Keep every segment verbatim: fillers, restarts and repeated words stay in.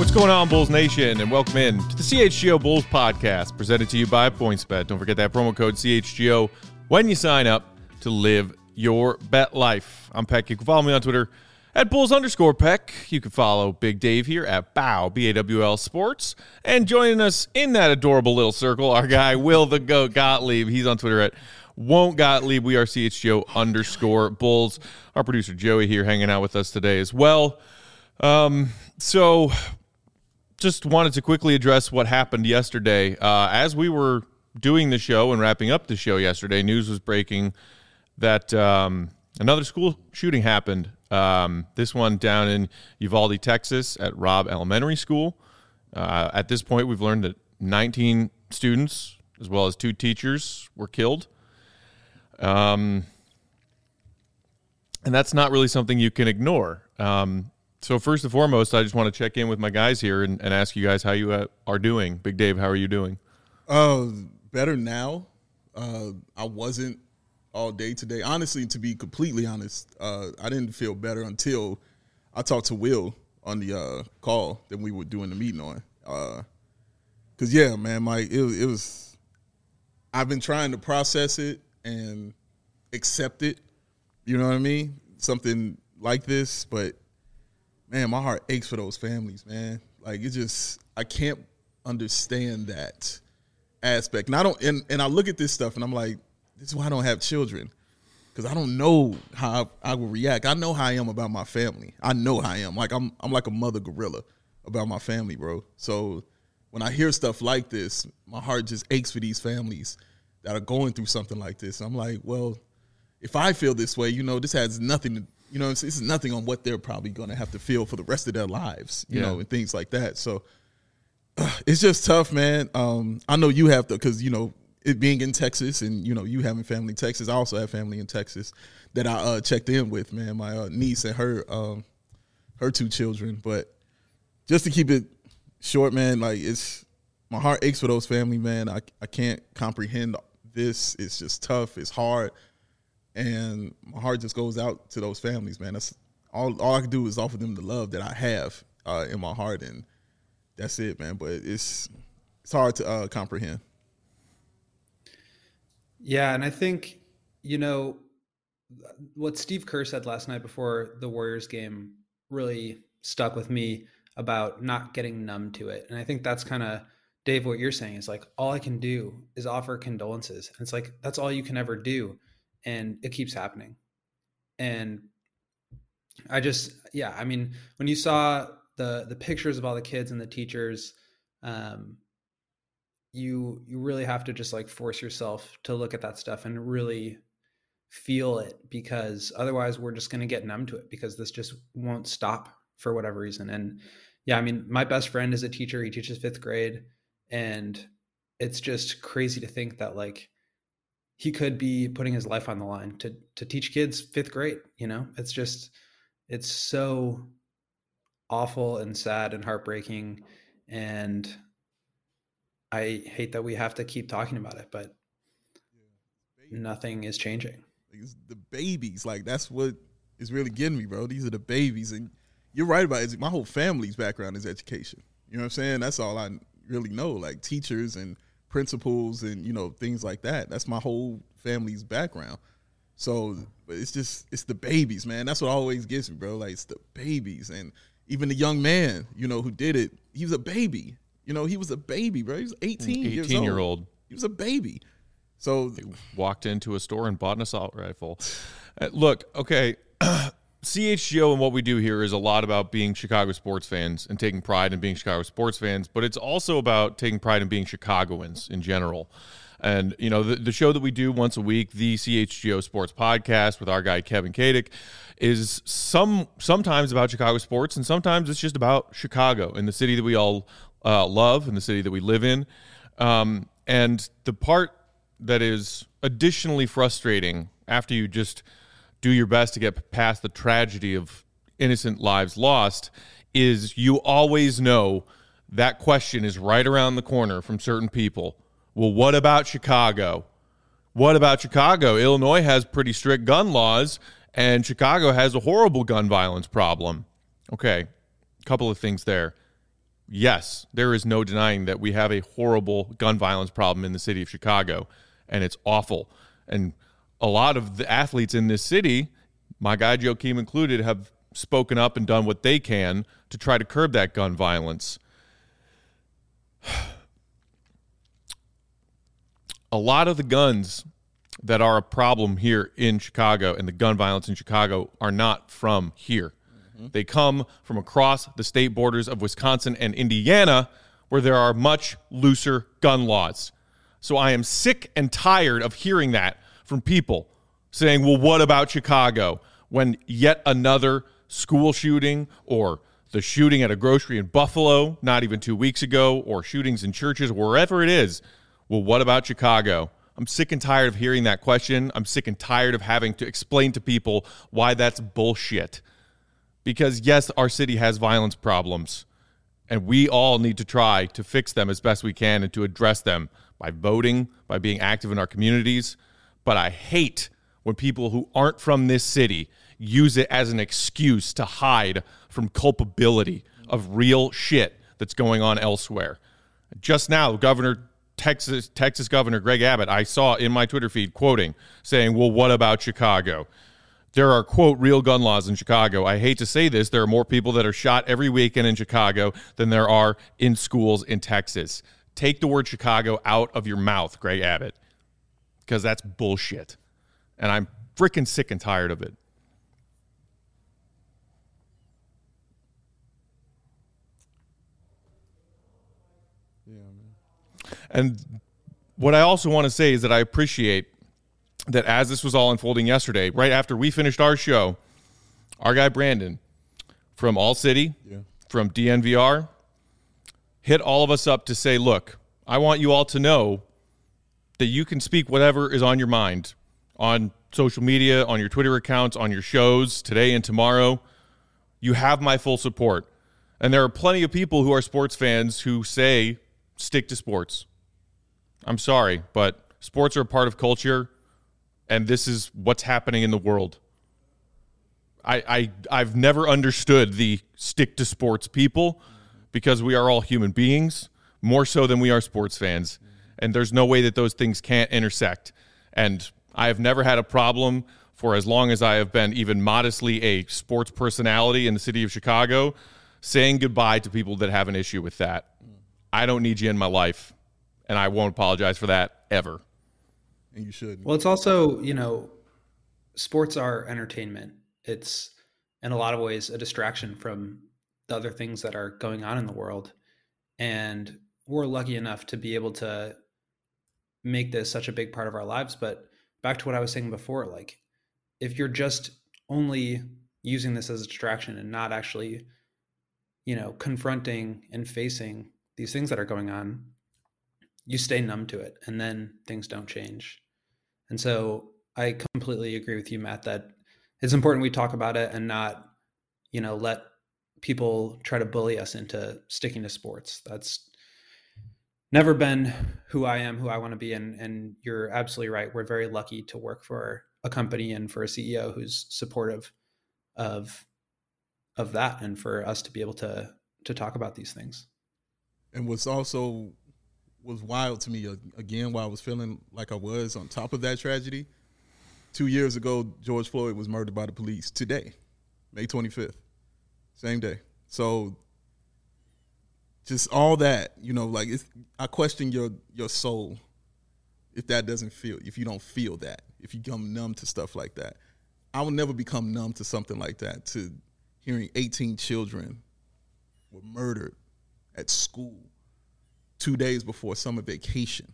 What's going on, Bulls Nation, and welcome in to the C H G O Bulls podcast, presented to you by PointsBet. Don't forget that promo code C H G O when you sign up to live your bet life. I'm Peck. You can follow me on Twitter at Bulls underscore Peck. You can follow Big Dave here at Bow, B A W L Sports. And joining us in that adorable little circle, our guy, Will the Goat Gottlieb. He's on Twitter at Won't Gottlieb. We are C H G O underscore Bulls. Our producer, Joey, here hanging out with us today as well. Um, so... Just wanted to quickly address what happened yesterday. Uh, as we were doing the show and wrapping up the show yesterday, news was breaking that um, another school shooting happened. Um, this one down in Uvalde, Texas, at Robb Elementary School. Uh, at this point, we've learned that nineteen students, as well as two teachers, were killed. Um, and that's not really something you can ignore. Um So first and foremost, I just want to check in with my guys here and, and ask you guys how you uh, are doing. Big Dave, how are you doing? Uh, better now. Uh, I wasn't all day today. Honestly, to be completely honest, uh, I didn't feel better until I talked to Will on the uh, call that we were doing the meeting on. Uh, Cause yeah, man, Mike, it, it was. I've been trying to process it and accept it. You know what I mean? Something like this, but. Man, my heart aches for those families, man. Like, it just, I can't understand that aspect. And I don't, and, and I look at this stuff and I'm like, this is why I don't have children. Because I don't know how I, I will react. I know how I am about my family. I know how I am. Like, I'm I'm like a mother gorilla about my family, bro. So when I hear stuff like this, my heart just aches for these families that are going through something like this. I'm like, well, if I feel this way, you know, this has nothing to You know, this is nothing on what they're probably going to have to feel for the rest of their lives, you yeah. know, and things like that. So uh, it's just tough, man. Um, I know you have to, because, you know, it being in Texas and, you know, you having family in Texas. I also have family in Texas that I uh, checked in with, man, my uh, niece and her um, her two children. But just to keep it short, man, like it's my heart aches for those family, man. I, I can't comprehend this. It's just tough. It's hard. And my heart just goes out to those families, man. That's all. All I can do is offer them the love that I have uh, in my heart, and that's it, man. But it's it's hard to uh, comprehend. Yeah, and I think you know what Steve Kerr said last night before the Warriors game really stuck with me about not getting numb to it, and I think that's kind of Dave. What you're saying is like all I can do is offer condolences, and it's like that's all you can ever do. And it keeps happening. And I just, yeah, I mean, when you saw the the pictures of all the kids and the teachers, um, you you really have to just like force yourself to look at that stuff and really feel it, because otherwise we're just going to get numb to it, because this just won't stop for whatever reason. And yeah, I mean, my best friend is a teacher. He teaches fifth grade. And it's just crazy to think that like, he could be putting his life on the line to to teach kids fifth grade. You know, it's just, it's so awful and sad and heartbreaking. And I hate that we have to keep talking about it, but yeah, nothing is changing. It's the babies, like that's what is really getting me, bro. These are the babies. And you're right about it. My whole family's background is education. You know what I'm saying? That's all I really know, like teachers and principals and, you know, things like that. That's my whole family's background. So but it's just, it's the babies, man. That's what always gets me, bro. Like, it's the babies. And even the young man, you know, who did it, he was a baby. You know, he was a baby, bro. He was eighteen, eighteen years old. year old. He was a baby. So he walked into a store and bought an assault rifle. Uh, look, okay, C H G O and what we do here is a lot about being Chicago sports fans and taking pride in being Chicago sports fans, but it's also about taking pride in being Chicagoans in general. And, you know, the, the show that we do once a week, the C H G O Sports Podcast with our guy Kevin Kadick, is some sometimes about Chicago sports, and sometimes it's just about Chicago and the city that we all uh, love and the city that we live in. Um, and the part that is additionally frustrating after you just do your best to get past the tragedy of innocent lives lost is you always know that question is right around the corner from certain people. Well, what about Chicago? What about Chicago? Illinois has pretty strict gun laws, and Chicago has a horrible gun violence problem. Okay, a couple of things there. yes, there is no denying that we have a horrible gun violence problem in the city of Chicago, and it's awful. And a lot of the athletes in this city, my guy Joakim included, have spoken up and done what they can to try to curb that gun violence. A lot of the guns that are a problem here in Chicago and the gun violence in Chicago are not from here. Mm-hmm. They come from across the state borders of Wisconsin and Indiana, where there are much looser gun laws. So I am sick and tired of hearing that from people saying, well, what about Chicago? When yet another school shooting or the shooting at a grocery in Buffalo not even two weeks ago, or shootings in churches, wherever it is, well, what about Chicago? I'm sick and tired of hearing that question. I'm sick and tired of having to explain to people why that's bullshit. Because, yes, our city has violence problems, and we all need to try to fix them as best we can and to address them by voting, by being active in our communities. But I hate when people who aren't from this city use it as an excuse to hide from culpability of real shit that's going on elsewhere. Just now, Governor Texas Texas Governor Greg Abbott, I saw in my Twitter feed quoting, saying, well, what about Chicago? There are, quote, real gun laws in Chicago. I hate to say this, there are more people that are shot every weekend in Chicago than there are in schools in Texas. Take the word Chicago out of your mouth, Greg Abbott, because that's bullshit. And I'm freaking sick and tired of it. Yeah, man. And what I also want to say is that I appreciate that as this was all unfolding yesterday, right after we finished our show, our guy Brandon from All City, yeah. from D N V R, hit all of us up to say, look, I want you all to know that you can speak whatever is on your mind on social media, on your Twitter accounts, on your shows today and tomorrow. You have my full support. And there are plenty of people who are sports fans who say, stick to sports. I'm sorry, but sports are a part of culture, and this is what's happening in the world. I, I, I've never understood the stick to sports people because we are all human beings, more so than we are sports fans. And there's no way that those things can't intersect. And I have never had a problem for as long as I have been even modestly a sports personality in the city of Chicago saying goodbye to people that have an issue with that. I don't need you in my life, and I won't apologize for that ever. And you should. Well, it's also, you know, sports are entertainment. It's in a lot of ways a distraction from the other things that are going on in the world. And we're lucky enough to be able to make this such a big part of our lives. But back to what I was saying before, like if you're just only using this as a distraction and not actually, you know, confronting and facing these things that are going on, you stay numb to it and then things don't change. And so I completely agree with you, Matt, that it's important we talk about it and not, you know, let people try to bully us into sticking to sports. That's never been who I am, who I want to be. And, and you're absolutely right. We're very lucky to work for a company and for a C E O who's supportive of, of that, and for us to be able to, to talk about these things. And what's also was wild to me, again, while I was feeling like I was on top of that tragedy, two years ago, George Floyd was murdered by the police. Today, May twenty-fifth, same day. So just all that, you know, like it's, I question your your soul if that doesn't feel, if you don't feel that, if you become numb to stuff like that. I will never become numb to something like that, to hearing eighteen children were murdered at school two days before summer vacation.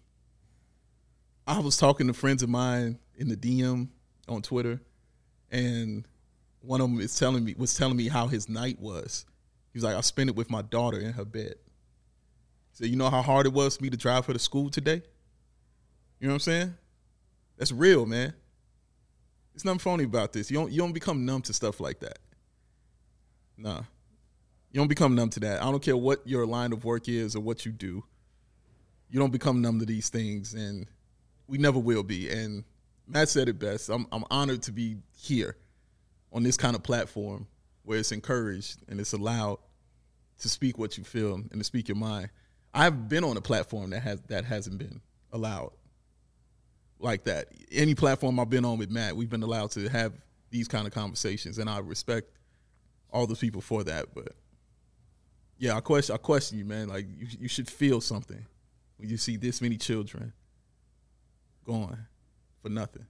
I was talking to friends of mine in the D M on Twitter, and one of them is telling me was telling me how his night was. He was like, I spent it with my daughter in her bed. He said, you know how hard it was for me to drive her to school today? You know what I'm saying? That's real, man. There's nothing phony about this. You don't you don't become numb to stuff like that. Nah. You don't become numb to that. I don't care what your line of work is or what you do. You don't become numb to these things, and we never will be. And Matt said it best. I'm I'm honored to be here on this kind of platform where it's encouraged and it's allowed to speak what you feel and to speak your mind. I've been on a platform that has that hasn't been allowed like that. Any platform I've been on with Matt, we've been allowed to have these kind of conversations, and I respect all the people for that. But yeah, I question I question you, man. Like you, you should feel something when you see this many children going for nothing.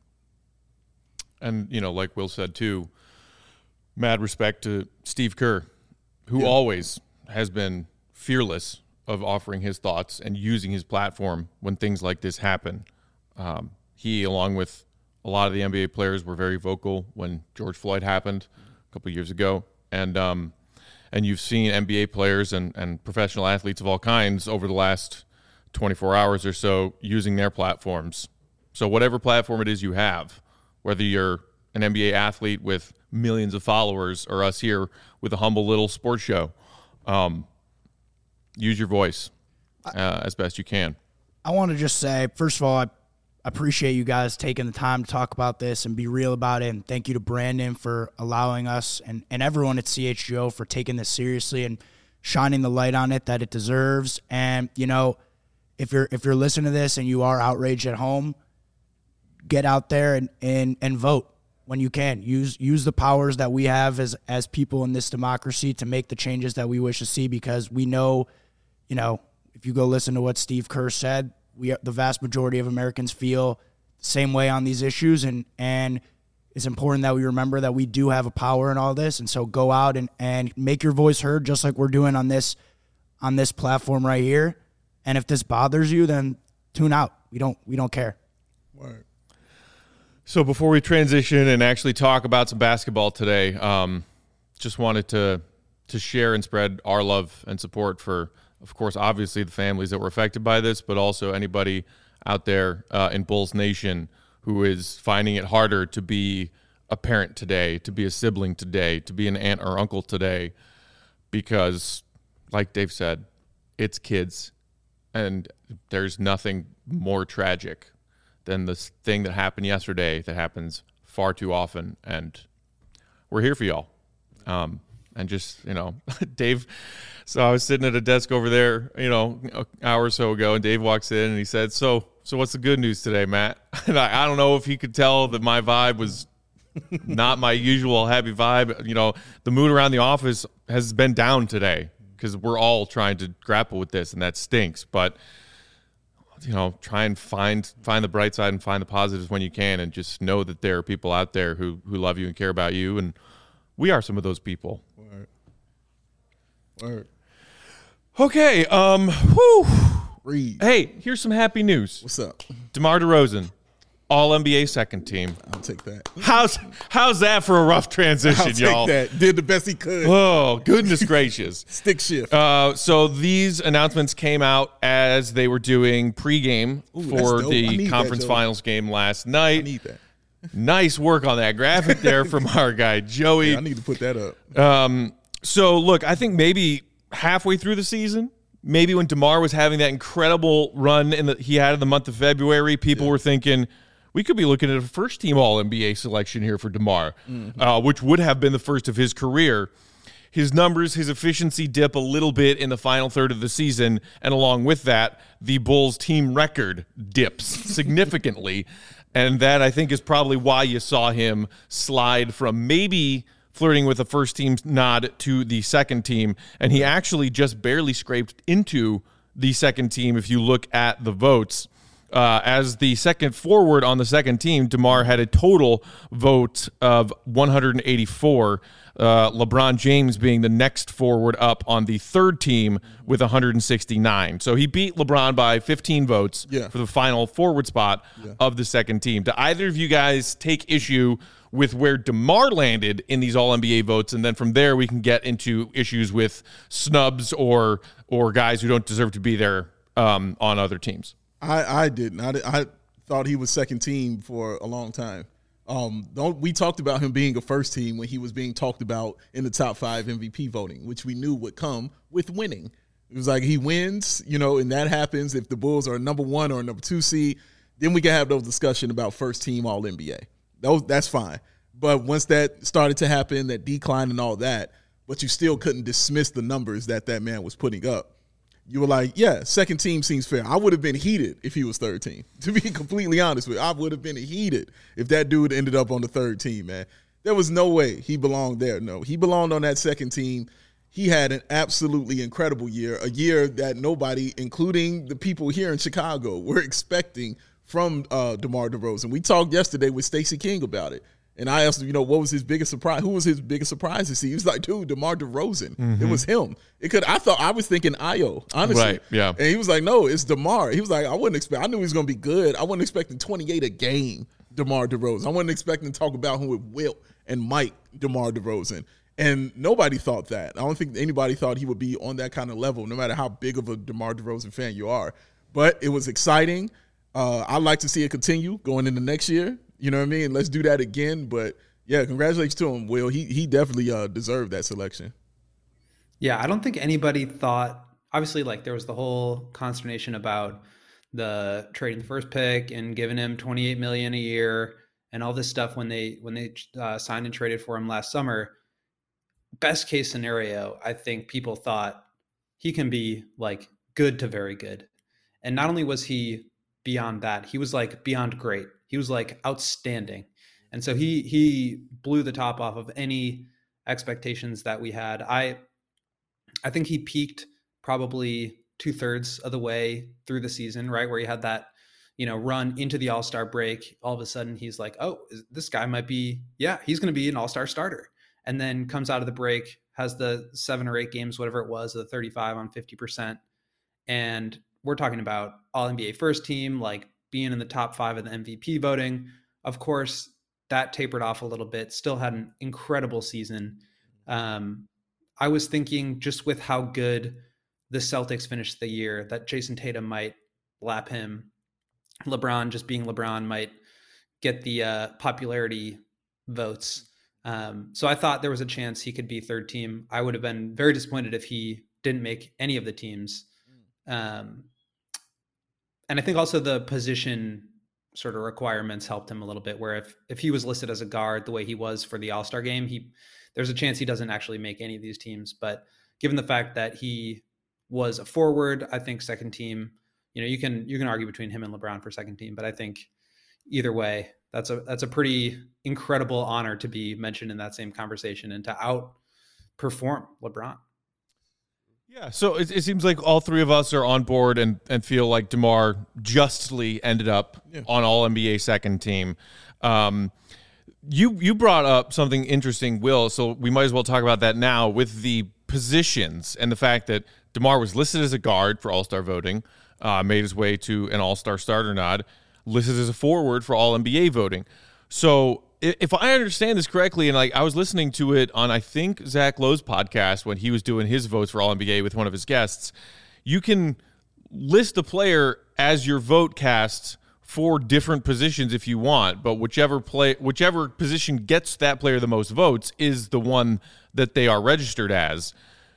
And, you know, like Will said, too, mad respect to Steve Kerr, who Yeah. always has been fearless of offering his thoughts and using his platform when things like this happen. Um, he, along with a lot of the N B A players, were very vocal when George Floyd happened a couple of years ago. And um, and you've seen N B A players and, and professional athletes of all kinds over the last twenty-four hours or so using their platforms. So whatever platform it is you have, whether you're an N B A athlete with millions of followers or us here with a humble little sports show, um, use your voice uh, as best you can. I want to just say, first of all, I appreciate you guys taking the time to talk about this and be real about it. And thank you to Brandon for allowing us and, and everyone at C H G O for taking this seriously and shining the light on it that it deserves. And, you know, if you're if you're listening to this and you are outraged at home, get out there and, and, and vote when you can. Use use the powers that we have as as people in this democracy to make the changes that we wish to see, because we know, you know, if you go listen to what Steve Kerr said, we the vast majority of Americans feel the same way on these issues, and and it's important that we remember that we do have a power in all this. And so go out and, and make your voice heard, just like we're doing on this on this platform right here. And if this bothers you, then tune out. We don't we don't care. Word. So before we transition and actually talk about some basketball today, um, just wanted to to share and spread our love and support for, of course, obviously the families that were affected by this, but also anybody out there uh, in Bulls Nation who is finding it harder to be a parent today, to be a sibling today, to be an aunt or uncle today, because, like Dave said, it's kids, and there's nothing more tragic than this thing that happened yesterday that happens far too often, and we're here for y'all. Um, and just, you know, Dave, so I was sitting at a desk over there, you know, an hour or so ago, and Dave walks in and he said, so so what's the good news today, Matt? And I, I don't know if he could tell that my vibe was not my usual happy vibe. You know, the mood around the office has been down today because we're all trying to grapple with this, and that stinks. But you know, try and find find the bright side and find the positives when you can, and just know that there are people out there who who love you and care about you, and we are some of those people. Word. Word. Okay, um, whew. Read. Hey, here's some happy news. What's up? DeMar DeRozan, All N B A second team. I'll take that. How's how's that for a rough transition, I'll take y'all? that. Did the best he could. Oh, goodness gracious. Stick shift. Uh, so these announcements came out as they were doing pregame Ooh, that's for dope. I the need that, conference Joey. finals game last I night. need that. Nice work on that graphic there from our guy, Joey. Yeah, I need to put that up. Um, so, look, I think maybe halfway through the season, maybe when DeMar was having that incredible run in the, he had in the month of February, people Yeah. were thinking, we could be looking at a first-team All N B A selection here for DeMar, Mm-hmm. uh, which would have been the first of his career. His numbers, his efficiency dip a little bit in the final third of the season, and along with that, the Bulls' team record dips significantly, and that, I think, is probably why you saw him slide from maybe flirting with a first-team nod to the second team, and he actually just barely scraped into the second team if you look at the votes. Uh, as the second forward on the second team, DeMar had a total vote of one hundred eighty-four, uh, LeBron James being the next forward up on the third team with one hundred sixty-nine. So he beat LeBron by fifteen votes Yeah. for the final forward spot Yeah. of the second team. Do either of you guys take issue with where DeMar landed in these All N B A votes, and then from there we can get into issues with snubs or or guys who don't deserve to be there um, on other teams? I, I didn't. I, did- I thought he was second team for a long time. Um, don't we talked about him being a first team when he was being talked about in the top five M V P voting, which we knew would come with winning. It was like he wins, you know, and that happens if the Bulls are number one or number two seed. Then we can have those discussion about first team All N B A. Those that's fine. But once that started to happen, that decline and all that, but you still couldn't dismiss the numbers that that man was putting up. You were like, yeah, second team seems fair. I would have been heated if he was third team. To be completely honest with you, I would have been heated if that dude ended up on the third team, man. There was no way he belonged there. No, he belonged on that second team. He had an absolutely incredible year, a year that nobody, including the people here in Chicago, were expecting from uh, DeMar DeRozan. We talked yesterday with Stacey King about it. And I asked him, you know, what was his biggest surprise? Who was his biggest surprise to see? He was like, dude, DeMar DeRozan. Mm-hmm. It was him. It could. I thought I was thinking Ayo, honestly. Right, yeah. And he was like, no, it's DeMar. He was like, I wouldn't expect. I knew he was going to be good. I wasn't expecting twenty-eight a game, DeMar DeRozan. I wasn't expecting to talk about him with Wilt and Mike, DeMar DeRozan. And nobody thought that. I don't think anybody thought he would be on that kind of level, no matter how big of a DeMar DeRozan fan you are. But it was exciting. Uh, I'd like to see it continue going into next year. You know what I mean? Let's do that again. But yeah, congratulations to him, Will. He he definitely uh, deserved that selection. Yeah, I don't think anybody thought, obviously, like there was the whole consternation about the trading the first pick and giving him twenty-eight million dollars a year and all this stuff when they when they uh, signed and traded for him last summer. Best case scenario, I think people thought he can be like good to very good. And not only was he beyond that, he was like beyond great. He was like outstanding. And so he he blew the top off of any expectations that we had. I I think he peaked probably two thirds of the way through the season, right? Where he had that, you know, run into the All-Star break. All of a sudden he's like, oh, this guy might be, yeah, he's going to be an All-Star starter. And then comes out of the break, has the seven or eight games, whatever it was, the thirty-five on fifty percent. And we're talking about all N B A first team, like being in the top five of the M V P voting. Of course, that tapered off a little bit, still had an incredible season. Um, I was thinking just with how good the Celtics finished the year that Jason Tatum might lap him. LeBron, just being LeBron, might get the uh, popularity votes. Um, so I thought there was a chance he could be third team. I would have been very disappointed if he didn't make any of the teams. Um, and I think also the position sort of requirements helped him a little bit, where if, if he was listed as a guard the way he was for the All-Star game, he, there's a chance he doesn't actually make any of these teams. But given the fact that he was a forward, I think second team, you know, you can, you can argue between him and LeBron for second team, but I think either way, that's a, that's a pretty incredible honor to be mentioned in that same conversation and to outperform LeBron. Yeah, so it, it seems like all three of us are on board and, and feel like DeMar justly ended up yeah. on All N B A second team. Um, you you brought up something interesting, Will, so we might as well talk about that now with the positions and the fact that DeMar was listed as a guard for All-Star voting, uh, made his way to an All-Star starter nod, listed as a forward for All N B A voting. So if I understand this correctly, and like I was listening to it on, I think, Zach Lowe's podcast when he was doing his votes for All N B A with one of his guests, you can list a player as your vote cast for different positions if you want, but whichever play, whichever position gets that player the most votes is the one that they are registered as.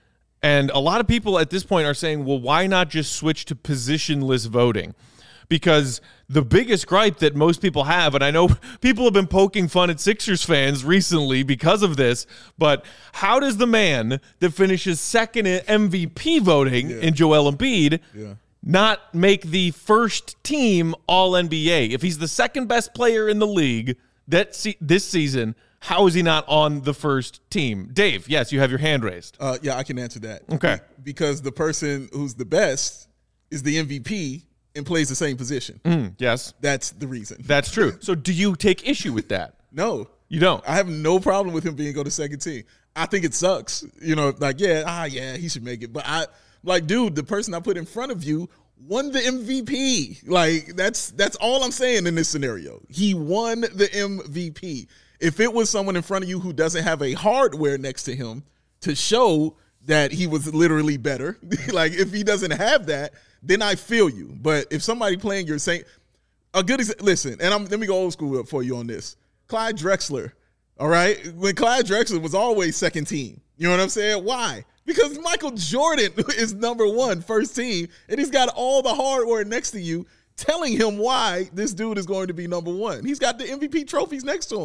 And a lot of people at this point are saying, well, why not just switch to positionless voting? Because the biggest gripe that most people have, and I know people have been poking fun at Sixers fans recently because of this, but how does the man that finishes second in M V P voting yeah. in Joel Embiid yeah. not make the first team All N B A? If he's the second best player in the league that se- this season, how is he not on the first team? Dave, yes, you have your hand raised. Uh, yeah, I can answer that. Okay. Because the person who's the best is the M V P and plays the same position. Mm, yes. That's the reason. That's true. So do you take issue with that? No. You don't? I have no problem with him being on the second team. I think it sucks. You know, like, yeah, ah, yeah, he should make it. But I, like, dude, the person I put in front of you won the M V P. Like, that's that's all I'm saying in this scenario. He won the M V P. If it was someone in front of you who doesn't have a hardware next to him to show that he was literally better, like if he doesn't have that, then I feel you. But if somebody playing your same, a good exa- listen, and I'm, let me go old school for you on this. Clyde Drexler, all right? When Clyde Drexler was always second team, you know what I'm saying? Why? Because Michael Jordan is number one, first team, and he's got all the hardware next to you telling him why this dude is going to be number one. He's got the M V P trophies next to him.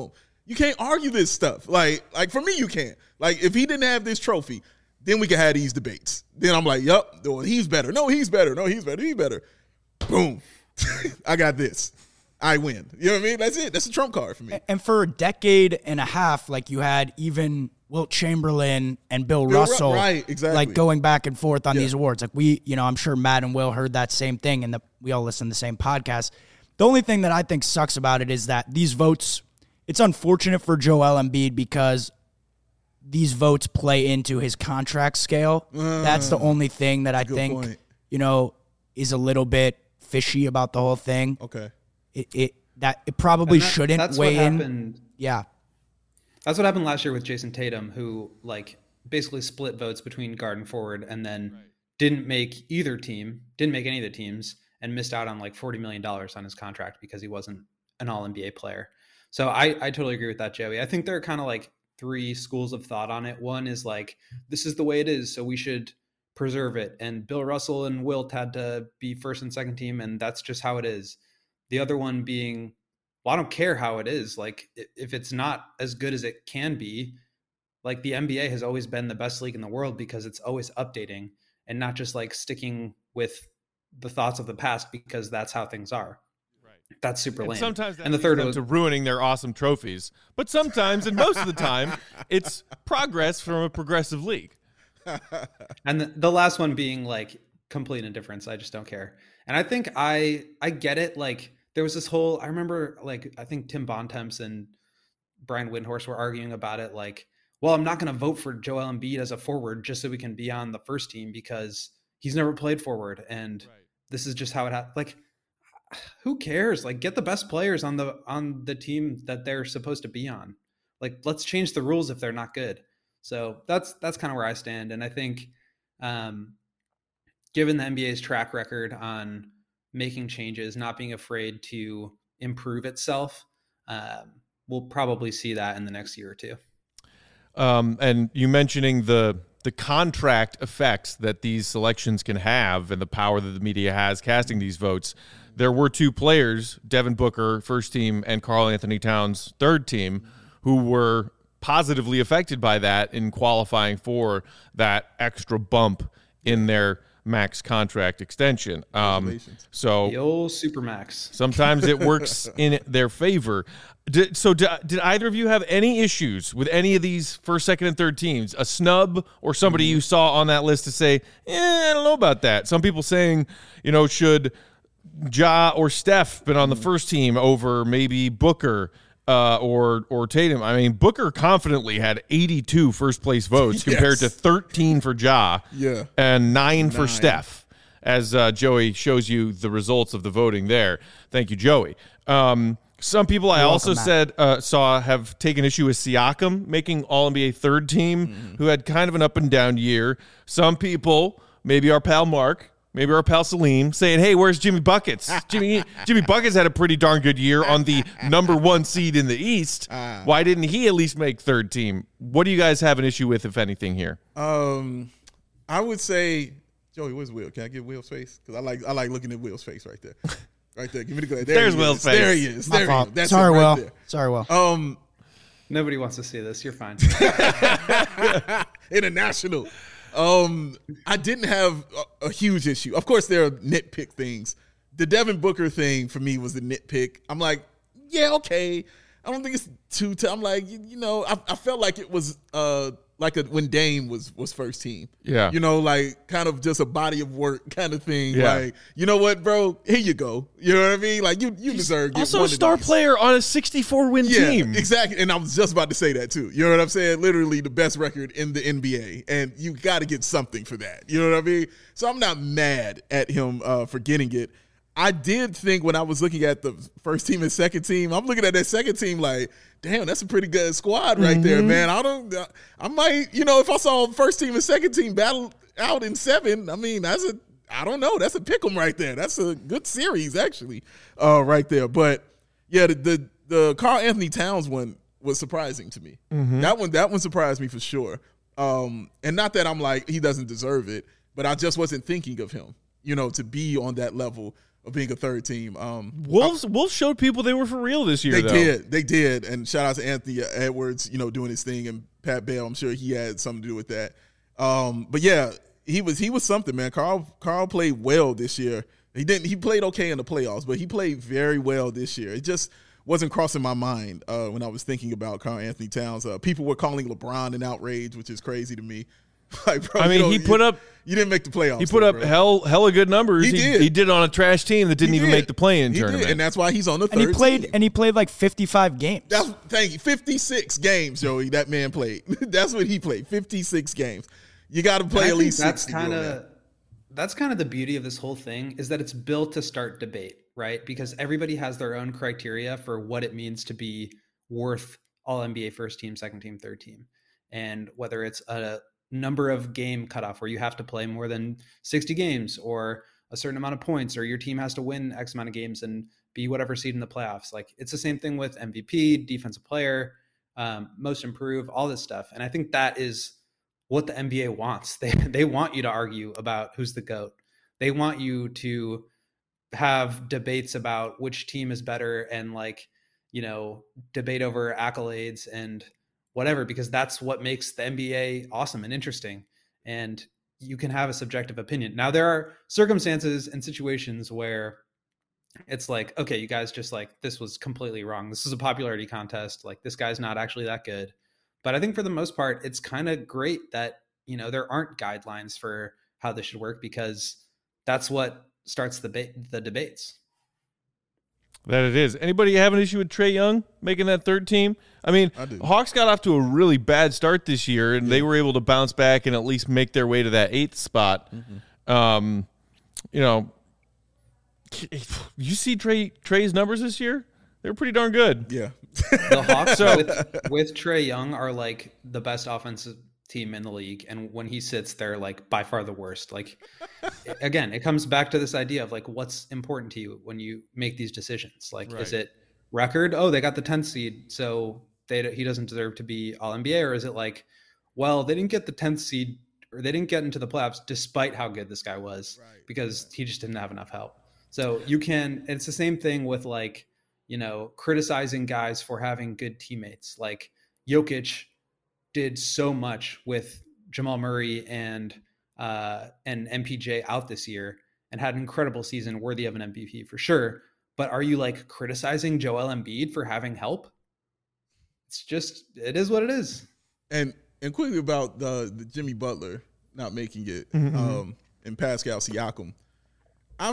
You can't argue this stuff. Like, like for me, you can't. Like, if he didn't have this trophy, then we could have these debates. Then I'm like, yup, well, he's better. No, he's better. No, he's better. He's better. Boom. I got this. I win. You know what I mean? That's it. That's a trump card for me. And for a decade and a half, like you had even Wilt Chamberlain and Bill, Bill Russell, Ru- right, exactly. like going back and forth on Yeah. these awards. Like we, you know, I'm sure Matt and Will heard that same thing, and the, we all listen to the same podcast. The only thing that I think sucks about it is that these votes, it's unfortunate for Joel Embiid because these votes play into his contract scale. Uh, That's the only thing that I think, point. you know, is a little bit fishy about the whole thing. Okay. It, it that it probably that, shouldn't that's weigh what in. Happened. Yeah. That's what happened last year with Jason Tatum, who like basically split votes between guard and forward and then right. didn't make either team, didn't make any of the teams, and missed out on like forty million dollars on his contract because he wasn't an all N B A player. So I, I totally agree with that, Joey. I think there are kind of like three schools of thought on it. One is like, this is the way it is, so we should preserve it. And Bill Russell and Wilt had to be first and second team, and that's just how it is. The other one being, well, I don't care how it is. Like, if it's not as good as it can be, like the N B A has always been the best league in the world because it's always updating and not just like sticking with the thoughts of the past because that's how things are. Right. That's super lame. And sometimes that and the third leads was to ruining their awesome trophies. But sometimes, and most of the time, it's progress from a progressive league. And the, the last one being like complete indifference. I just don't care. And I think I I get it. Like, there was this whole, I remember like, I think Tim Bontemps and Brian Windhorst were arguing about it. Like, well, I'm not going to vote for Joel Embiid as a forward just so we can be on the first team because he's never played forward. And right. this is just how it happened. Like, who cares? Like, get the best players on the, on the team that they're supposed to be on. Like, let's change the rules if they're not good. So that's, that's kind of where I stand. And I think, um, given the N B A's track record on making changes, not being afraid to improve itself, um, we'll probably see that in the next year or two. Um, and you mentioning the the contract effects that these selections can have and the power that the media has casting these votes. There were two players, Devin Booker, first team, and Karl Anthony Towns, third team, who were positively affected by that in qualifying for that extra bump in their max contract extension. Um, so the old Supermax. Sometimes it works in their favor. Did, so did, did either of you have any issues with any of these first, second, and third teams? A snub or somebody mm-hmm. you saw on that list to say, eh, I don't know about that. Some people saying, you know, should Ja or Steph been on the first team over maybe Booker uh, or or Tatum? I mean, Booker confidently had eighty-two first place votes yes. compared to thirteen for Ja yeah. and nine for nine. Steph, as uh, Joey shows you the results of the voting there. Thank you, Joey. Um, some people I You're also welcome, said uh, saw have taken issue with Siakam making All N B A third team, mm. who had kind of an up and down year. Some people, maybe our pal Mark, maybe our pal Salim, saying, hey, where's Jimmy Buckets? Jimmy Jimmy Buckets had a pretty darn good year on the number one seed in the East. Uh, Why didn't he at least make third team? What do you guys have an issue with, if anything, here? Um, I would say, Joey, where's Will? Can I get Will's face? Because I like I like looking at Will's face right there. Right there. Give me the glare. There There's Will's face. There he is. There he is. That's Sorry, right Will. there. Sorry, Will. Um, Nobody wants to see this. You're fine. International. Um, I didn't have a, a huge issue. Of course, there are nitpick things. The Devin Booker thing for me was the nitpick. I'm like, yeah, okay. I don't think it's too. T- I'm like, you, you know, I, I felt like it was uh like a, when Dame was was first team. Yeah, you know, like kind of just a body of work kind of thing. Yeah. Like, you know what, bro? Here you go. You know what I mean? Like, you you deserve. Also, a star player on a sixty-four win yeah, team. Exactly. And I was just about to say that too. You know what I'm saying? Literally the best record in the N B A, and you got to get something for that. You know what I mean? So I'm not mad at him uh, for getting it. I did think when I was looking at the first team and second team, I'm looking at that second team like, damn, that's a pretty good squad right mm-hmm. there, man. I don't, I might, you know, if I saw first team and second team battle out in seven, I mean, that's a, I don't know, that's a pick 'em right there. That's a good series actually, uh, right there. But yeah, the the, the Karl Anthony Towns one was surprising to me. Mm-hmm. That one, that one surprised me for sure. Um, and not that I'm like he doesn't deserve it, but I just wasn't thinking of him, you know, to be on that level. of being a third team. Um, Wolves, I, Wolves showed people they were for real this year. They though. did, they did, and shout out to Anthony Edwards, you know, doing his thing, and Pat Bell. I'm sure he had something to do with that. Um, but yeah, he was he was something, man. Carl Carl played well this year. He didn't. He played okay in the playoffs, but he played very well this year. It just wasn't crossing my mind uh, when I was thinking about Karl Anthony Towns. Uh, people were calling LeBron an outrage, which is crazy to me. Like, bro, I mean, you know, he put you, up. You didn't make the playoffs. He put though, up bro. hell, hella good numbers. He he did. He did on a trash team that didn't He even did. make the play-in He tournament, did, and that's why he's on the third And he played team. and he played like fifty-five games. That's, thank you. fifty-six games, Joey. That man played. That's what he played. fifty-six games. You got to play at least that's sixty. kind of that's kind of the beauty of this whole thing, is that it's built to start debate, right? Because everybody has their own criteria for what it means to be worth all N B A first team, second team, third team. And whether it's a number of game cutoff where you have to play more than sixty games, or a certain amount of points, or your team has to win X amount of games and be whatever seed in the playoffs. Like, it's the same thing with M V P, defensive player, um, most improved, all this stuff. And I think that is what the N B A wants. They they want you to argue about who's the GOAT. They want you to have debates about which team is better, and, like, you know, debate over accolades and whatever, because that's what makes the N B A awesome and interesting. And you can have a subjective opinion. Now, there are circumstances and situations where it's like, okay, you guys just, like, this was completely wrong. This is a popularity contest. Like, this guy's not actually that good. But I think for the most part, it's kind of great that, you know, there aren't guidelines for how this should work, because that's what starts the ba- the debates. That it is. Anybody have an issue with Trae Young making that third team? I mean, I do. Hawks got off to a really bad start this year, and yeah. they were able to bounce back and at least make their way to that eighth spot. Mm-hmm. Um, you know, you see Trae Trae's numbers this year? They're pretty darn good. Yeah. The Hawks so, with, with Trae Young are, like, the best offensive team in the league, and when he sits, they're, like, by far the worst. Like, again, it comes back to this idea of, like, what's important to you when you make these decisions. Like, right. Is it record? Oh, they got the tenth seed, so they he doesn't deserve to be all N B A. Or is it like, well, they didn't get the tenth seed, or they didn't get into the playoffs despite how good this guy was, right. because right. he just didn't have enough help. So you can, it's the same thing with, like, you know, criticizing guys for having good teammates. Like, Jokic did so much with Jamal Murray and uh, and M P J out this year, and had an incredible season worthy of an M V P for sure. But are you, like, criticizing Joel Embiid for having help? It's just, it is what it is. And and quickly about the, the Jimmy Butler not making it, mm-hmm. um, and Pascal Siakam. I'm.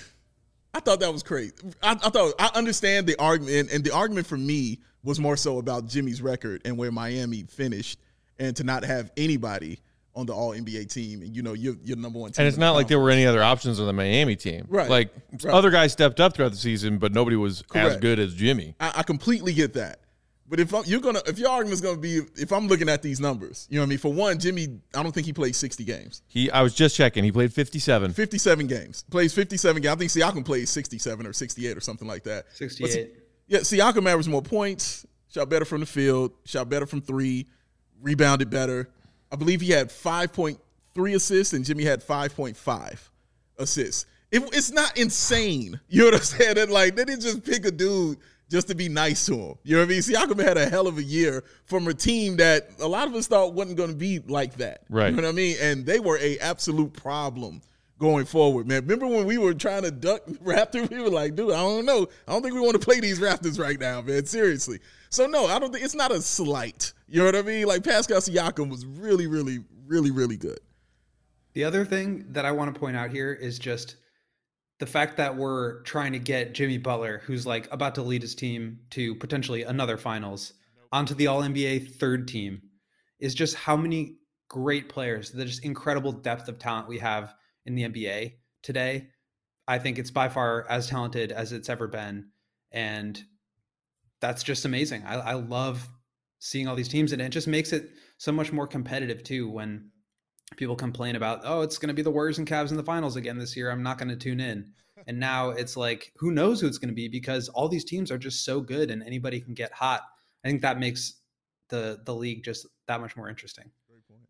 I thought that was crazy. I, I thought I understand the argument, and the argument for me was more so about Jimmy's record and where Miami finished, and to not have anybody on the All N B A team, and, you know, you're, you're number one team. And it's not like there were any other options on the Miami team. Right. Like, right. other guys stepped up throughout the season, but nobody was Correct. as good as Jimmy. I, I completely get that. But if I'm, you're gonna, if your argument's gonna be, if I'm looking at these numbers, you know what I mean. For one, Jimmy, I don't think he played sixty games. He, I was just checking. He played fifty-seven. fifty-seven games. Plays fifty-seven games. I think Siakam played sixty-seven or sixty-eight or something like that. sixty-eight. But, yeah, Siakam averaged more points, shot better from the field, shot better from three, rebounded better. I believe he had five point three assists, and Jimmy had five point five assists. It, it's not insane. You know what I'm saying? That, like, they didn't just pick a dude just to be nice to him. You know what I mean? Siakam had a hell of a year from a team that a lot of us thought wasn't going to be like that. Right. You know what I mean? And they were a absolute problem going forward, man. Remember when we were trying to duck Raptors? We were like, dude, I don't know. I don't think we want to play these Raptors right now, man. Seriously. So, no, I don't think it's not a slight. You know what I mean? Like, Pascal Siakam was really, really, really, really good. The other thing that I want to point out here is just the fact that we're trying to get Jimmy Butler, who's, like, about to lead his team to potentially another finals, onto the All N B A third team, is just how many great players, the just incredible depth of talent we have in the N B A today. I think it's by far as talented as it's ever been. And that's just amazing. I, I love seeing all these teams, and it just makes it so much more competitive too, when people complain about, oh, it's going to be the Warriors and Cavs in the finals again this year, I'm not going to tune in. And now it's like, who knows who it's going to be, because all these teams are just so good and anybody can get hot. I think that makes the the league just that much more interesting.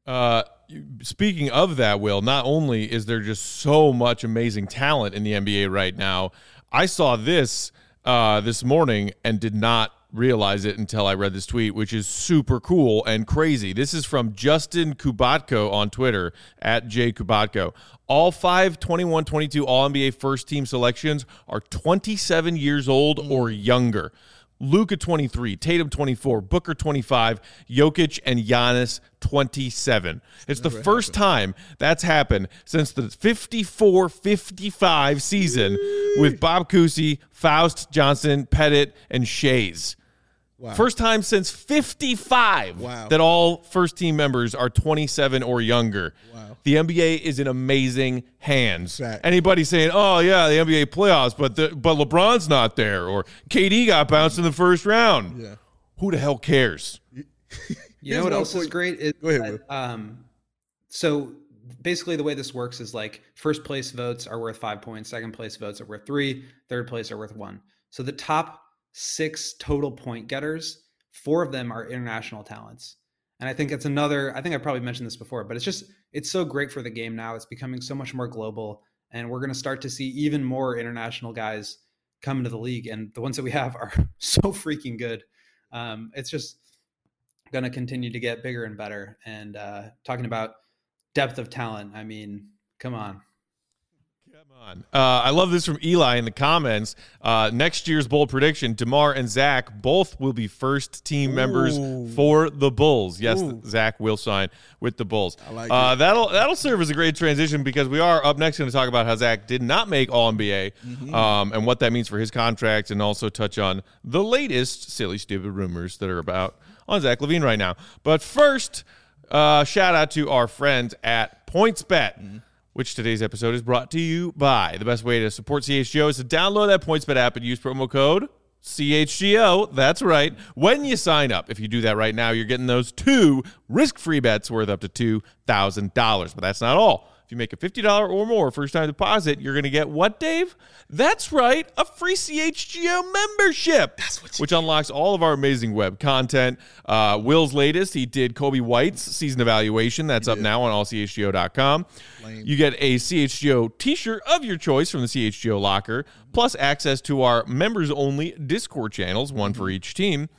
Uh, speaking of that, Will, not only is there just so much amazing talent in the N B A right now, I saw this uh, this morning and did not realize it until I read this tweet, which is super cool and crazy. This is from Justin Kubatko on Twitter, at J Kubatko. All five twenty-one twenty-two All-N B A first-team selections are twenty-seven years old or younger. Luka twenty-three, Tatum twenty-four, Booker twenty-five, Jokic and Giannis twenty-seven. It's the first time that's happened since the fifty-four fifty-five season with Bob Cousy, Faust, Johnson, Pettit, and Shays. Wow. First time since fifty-five wow. that all first-team members are twenty-seven or younger. Wow. The N B A is in amazing hands. Fact. Anybody saying, oh, yeah, the N B A playoffs, but the, but LeBron's not there, or K D got bounced in the first round. Yeah. Who the hell cares? You know what else is great? Is Go ahead, that, um, so basically the way this works is like first place votes are worth five points, second place votes are worth three, third place are worth one. So the top six total point getters, four of them are international talents. And I think it's another, I think I probably mentioned this before, but it's just, it's so great for the game now. It's becoming so much more global, and we're going to start to see even more international guys come into the league. And the ones that we have are so freaking good. Um, it's just going to continue to get bigger and better. And uh, talking about depth of talent, I mean, come on. Come on. Uh, I love this from Eli in the comments. Uh, next year's bold prediction, DeMar and Zach both will be first team Ooh. members for the Bulls. Yes, Ooh. Zach will sign with the Bulls. I like uh, that'll that'll serve as a great transition, because we are up next going to talk about how Zach did not make All N B A mm-hmm. um, and what that means for his contract, and also touch on the latest silly, stupid rumors that are about on Zach LaVine right now. But first, uh, shout out to our friends at PointsBet. Mm-hmm. Which today's episode is brought to you by. The best way to support C H G O is to download that PointsBet app and use promo code C H G O. That's right. When you sign up, if you do that right now, you're getting those two risk-free bets worth up to two thousand dollars. But that's not all. If you make a fifty dollars or more first-time deposit, you're going to get what, Dave? That's right, a free C H G O membership, That's what which get. unlocks all of our amazing web content. Uh, Will's latest, he did Kobe White's season evaluation. That's up now on all C H G O dot com. Lame. You get a C H G O t-shirt of your choice from the C H G O locker, plus access to our members-only Discord channels, one for each team.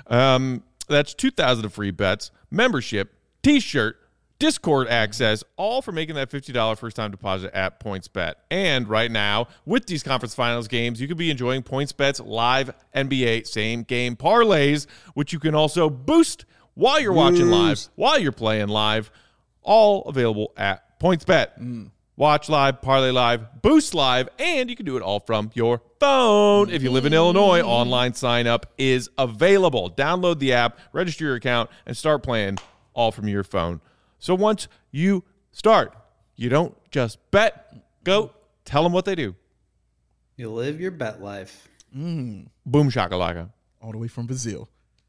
Um, that's two thousand of free bets, membership, t-shirt, Discord access, all for making that fifty dollars first-time deposit at PointsBet. And right now, with these conference finals games, you could be enjoying PointsBet's live N B A same-game parlays, which you can also boost while you're watching live, while you're playing live, all available at PointsBet. Mm. Watch live, parlay live, boost live, and you can do it all from your phone. If you live in Illinois, online sign-up is available. Download the app, register your account, and start playing all from your phone. So once you start, you don't just bet. Go tell them what they do. You live your bet life. Mm. Boom shakalaka. All the way from Brazil.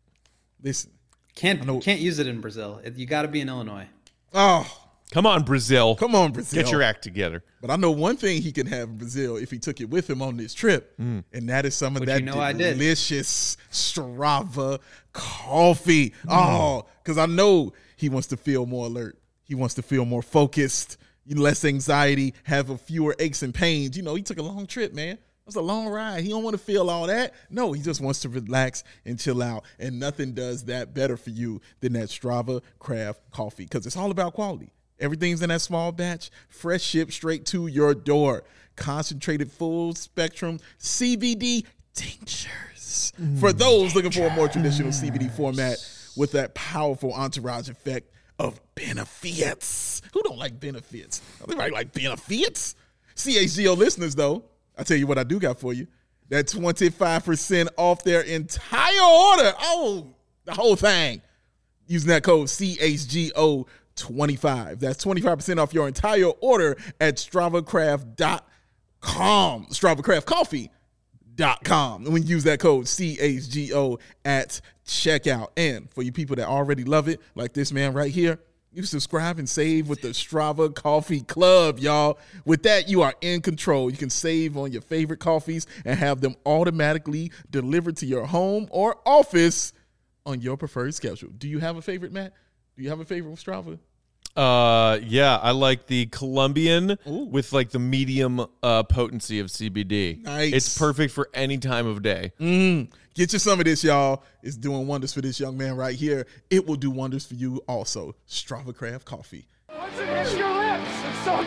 Listen. Can't can't use it in Brazil. You got to be in Illinois. Oh. Come on, Brazil. Come on, Brazil. Get your act together. But I know one thing he can have in Brazil if he took it with him on this trip, mm. and that is some of Which that you know delicious Strava coffee. Mm. Oh, because I know he wants to feel more alert. He wants to feel more focused, less anxiety, have a fewer aches and pains. You know, he took a long trip, man. It was a long ride. He don't want to feel all that. No, he just wants to relax and chill out. And nothing does that better for you than that Strava Craft coffee, because it's all about quality. Everything's in that small batch, fresh shipped straight to your door. Concentrated full spectrum C B D tinctures. Mm, for those looking for a more traditional C B D format with that powerful entourage effect of benefits. Who don't like benefits? Everybody like benefits. C H G O listeners, though, I tell you what I do got for you. That twenty-five percent off their entire order. Oh, the whole thing. Using that code C H G O twenty-five. That's twenty-five percent off your entire order at strava craft dot com. strava craft coffee dot com. And when you use that code C H G O at checkout. And for you people that already love it, like this man right here, you subscribe and save with the Strava Coffee Club, y'all. With that, you are in control. You can save on your favorite coffees and have them automatically delivered to your home or office on your preferred schedule. Do you have a favorite, Matt? Do you have a favorite with Strava? Uh, yeah, I like the Colombian Ooh. with like the medium uh, potency of C B D. Nice. It's perfect for any time of day. Mm. Get you some of this, y'all. It's doing wonders for this young man right here. It will do wonders for you also. Strava Craft Coffee. Once it hits your lips, it's so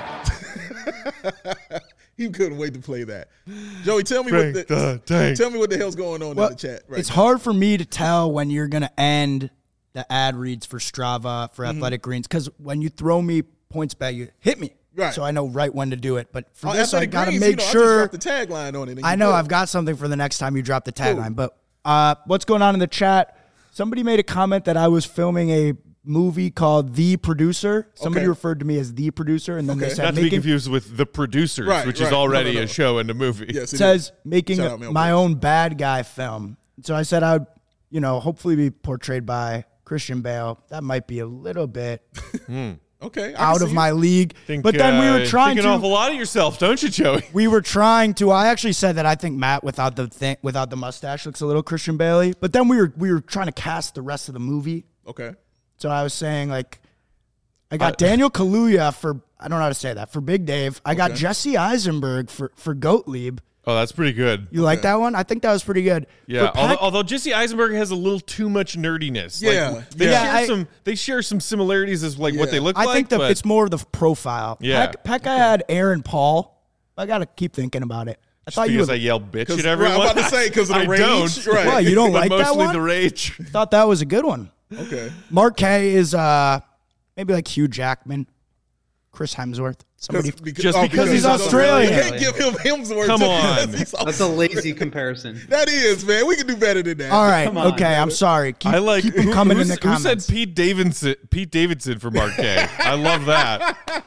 good. He couldn't wait to play that. Joey, tell me Frank what the, the tank. tell me what the hell's going on Well, in the chat right it's now. hard for me to tell when you're going to end the ad reads for Strava, for Mm-hmm. Athletic Greens, because when you throw me points back, you hit me. Right. So I know right when to do it. But for Oh, this, I Athletic got to Greens, make you know, sure. I just dropped the tagline on it. and I you know good. I've got something for the next time you drop the tagline. Cool. But uh, what's going on in the chat? Somebody made a comment that I was filming a movie called The Producer. Somebody Okay. referred to me as The Producer, and then Okay. they said Not to be making, confused with The Producers, Right, which right. is No, already no, no. a show and a movie. Yes, it says is. making Shout out Mel my Brooks. own bad guy film. So I said I would, you know, hopefully be portrayed by Christian Bale. That might be a little bit Okay. I can out see of it. my league. Think, but then we uh, were trying think to an awful lot of yourself, don't you, Joey? we were trying to. I actually said that I think Matt without the thing, without the mustache looks a little Christian Bailey. But then we were we were trying to cast the rest of the movie. Okay. So I was saying like, I got Daniel Kaluuya for I don't know how to say that for Big Dave. I got Okay. Jesse Eisenberg for for Gottlieb. Oh, that's pretty good. You like that one? I think that was pretty good. Yeah, For although, Peck- although Jesse Eisenberg has a little too much nerdiness. Yeah, like, they yeah. share I- some. They share some similarities as like what Yeah. they look I like. think the, but it's more of the profile. Yeah. Peck, Peck I had Aaron Paul. I got to keep thinking about it. I thought you because would, I yell bitch 'Cause- at right, everyone. I'm about to say, 'cause of the I rage, don't. right. Why, you don't but like that mostly one? the rage. thought that was a good one. Okay. Mark K is uh, maybe like Hugh Jackman, Chris Hemsworth. Somebody. Because- Just oh, because he's Australian. You can't give him Hemsworth. Come just on. because he's That's a lazy comparison. That is, man. We can do better than that. All right. Come on, okay. I'm sorry. Keep, I like keep them who- coming in who's- the comments. Who said Pete Davidson? Pete Davidson for Mark K. I love that.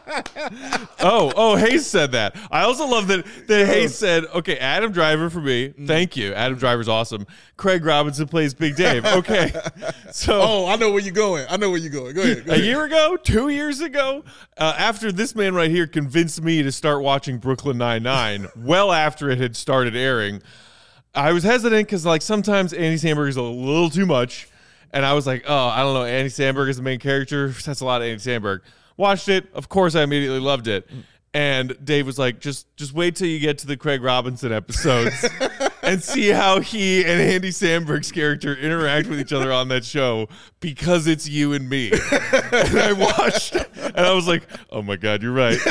Oh, oh, Hayes said that. I also love that that Hayes said, "Okay, Adam Driver for me. Thank you. Adam Driver's awesome. Craig Robinson plays Big Dave. Okay, so." Oh, I know where you're going. I know where you're going. Go ahead. Go A ahead. year ago, two years ago, uh, after this man right here convinced me to start watching Brooklyn Nine-Nine, well after it had started airing, I was hesitant because like sometimes Andy Samberg is a little too much, and I was like, oh, I don't know, Andy Samberg is the main character. That's a lot of Andy Samberg. Watched it, of course, I immediately loved it. And Dave was like, just just wait till you get to the Craig Robinson episodes and see how he and Andy Samberg's character interact with each other on that show because it's you and me. And I watched and I was like, oh my God, you're right.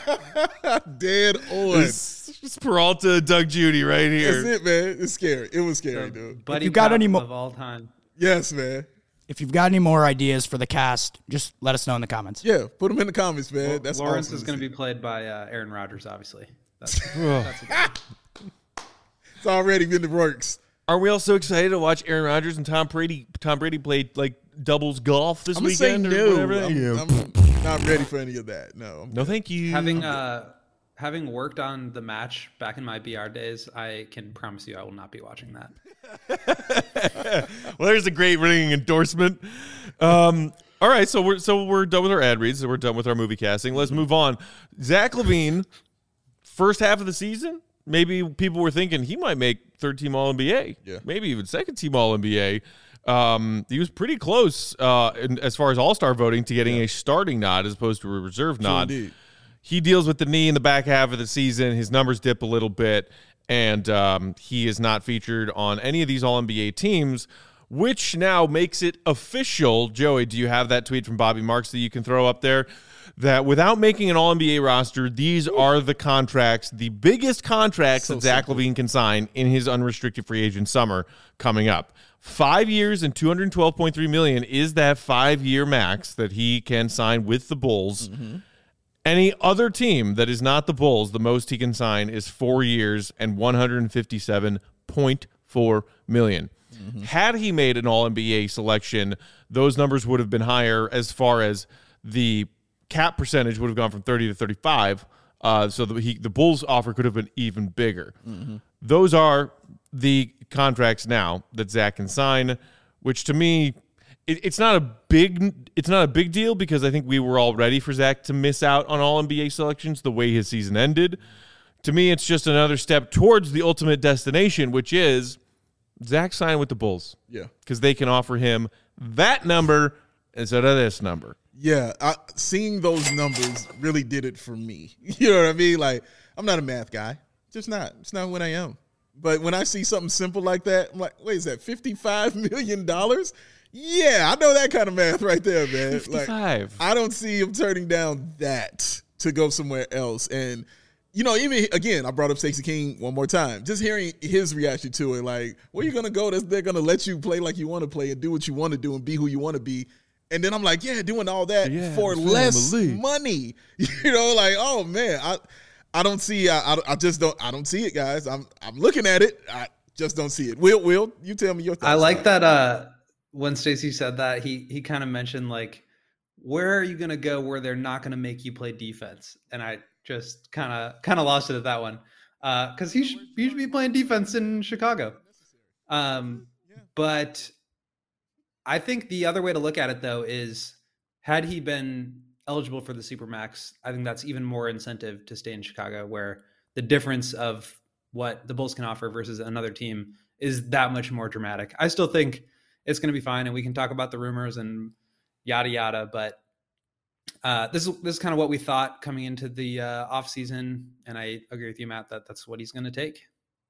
Dead on. It's, it's Peralta, Doug Judy right That's here. it, man. It's scary. It was scary, dude. Buddy you got cop any mo- of all time. Yes, man. If you've got any more ideas for the cast, just let us know in the comments. Yeah, put them in the comments, man. That's Lawrence awesome. is going to be played by uh, Aaron Rodgers, obviously. That's, that's a It's already in the works. Are we also excited to watch Aaron Rodgers and Tom Brady? Tom Brady played like doubles golf this I'm gonna say weekend or no. whatever. I'm, Yeah. I'm not ready for any of that. No. I'm No, thank you. having uh, having worked on the match back in my B R days, I can promise you I will not be watching that. Well, there's a great ringing endorsement. Um, all right, so we're so we're done with our ad reads. So we're done with our movie casting. Let's move on. Zach LaVine, first half of the season. Maybe people were thinking he might make third team All N B A. Yeah. Maybe even second team All N B A. Um, he was pretty close uh, in, as far as All Star voting to getting a starting nod as opposed to a reserve nod. indeed. He deals with the knee in the back half of the season. His numbers dip a little bit, and um, he is not featured on any of these All N B A teams, which now makes it official. Joey, do you have that tweet from Bobby Marks that you can throw up there? That without making an All N B A roster, these are the contracts, the biggest contracts So that Zach simple. LaVine can sign in his unrestricted free agent summer coming up. Five years and two hundred twelve point three million dollars is that five-year max that he can sign with the Bulls. Mm-hmm. Any other team that is not the Bulls, the most he can sign is four years and one hundred fifty-seven point four million dollars. Mm-hmm. Had he made an All N B A selection, those numbers would have been higher as far as the cap percentage would have gone from thirty to thirty-five. Uh, so the, he, the Bulls offer could have been even bigger. Mm-hmm. Those are the contracts now that Zach can sign, which to me, it, it's not a big it's not a big deal because I think we were all ready for Zach to miss out on All N B A selections the way his season ended. To me, it's just another step towards the ultimate destination, which is Zach signed with the Bulls. Yeah. Because they can offer him that number instead of this number. Yeah, I, seeing those numbers really did it for me. You know what I mean? Like, I'm not a math guy. Just not. It's not what I am. But when I see something simple like that, I'm like, wait, is that fifty-five million dollars? Yeah, I know that kind of math right there, man. fifty-five. Like, I don't see him turning down that to go somewhere else. And, you know, even, again, I brought up Stacey King one more time. Just hearing his reaction to it, like, where you going to go? They're going to let you play like you want to play and do what you want to do and be who you want to be. And then I'm like, yeah, doing all that yeah, for less money. You know, like, oh, man, I I don't see, I, I, I just don't, I don't see it, guys. I'm I'm looking at it. I just don't see it. Will, Will, you tell me your thoughts. I like that uh, when Stacey said that, he he kind of mentioned, like, where are you going to go where they're not going to make you play defense? And I just kind of kind of lost it at that one. Because uh, he, should, he should be playing defense in Chicago. Um, but I think the other way to look at it, though, is had he been eligible for the Supermax, I think that's even more incentive to stay in Chicago, where the difference of what the Bulls can offer versus another team is that much more dramatic. I still think it's going to be fine, and we can talk about the rumors and yada, yada, but uh, this, is, this is kind of what we thought coming into the uh, offseason, and I agree with you, Matt, that that's what he's going to take.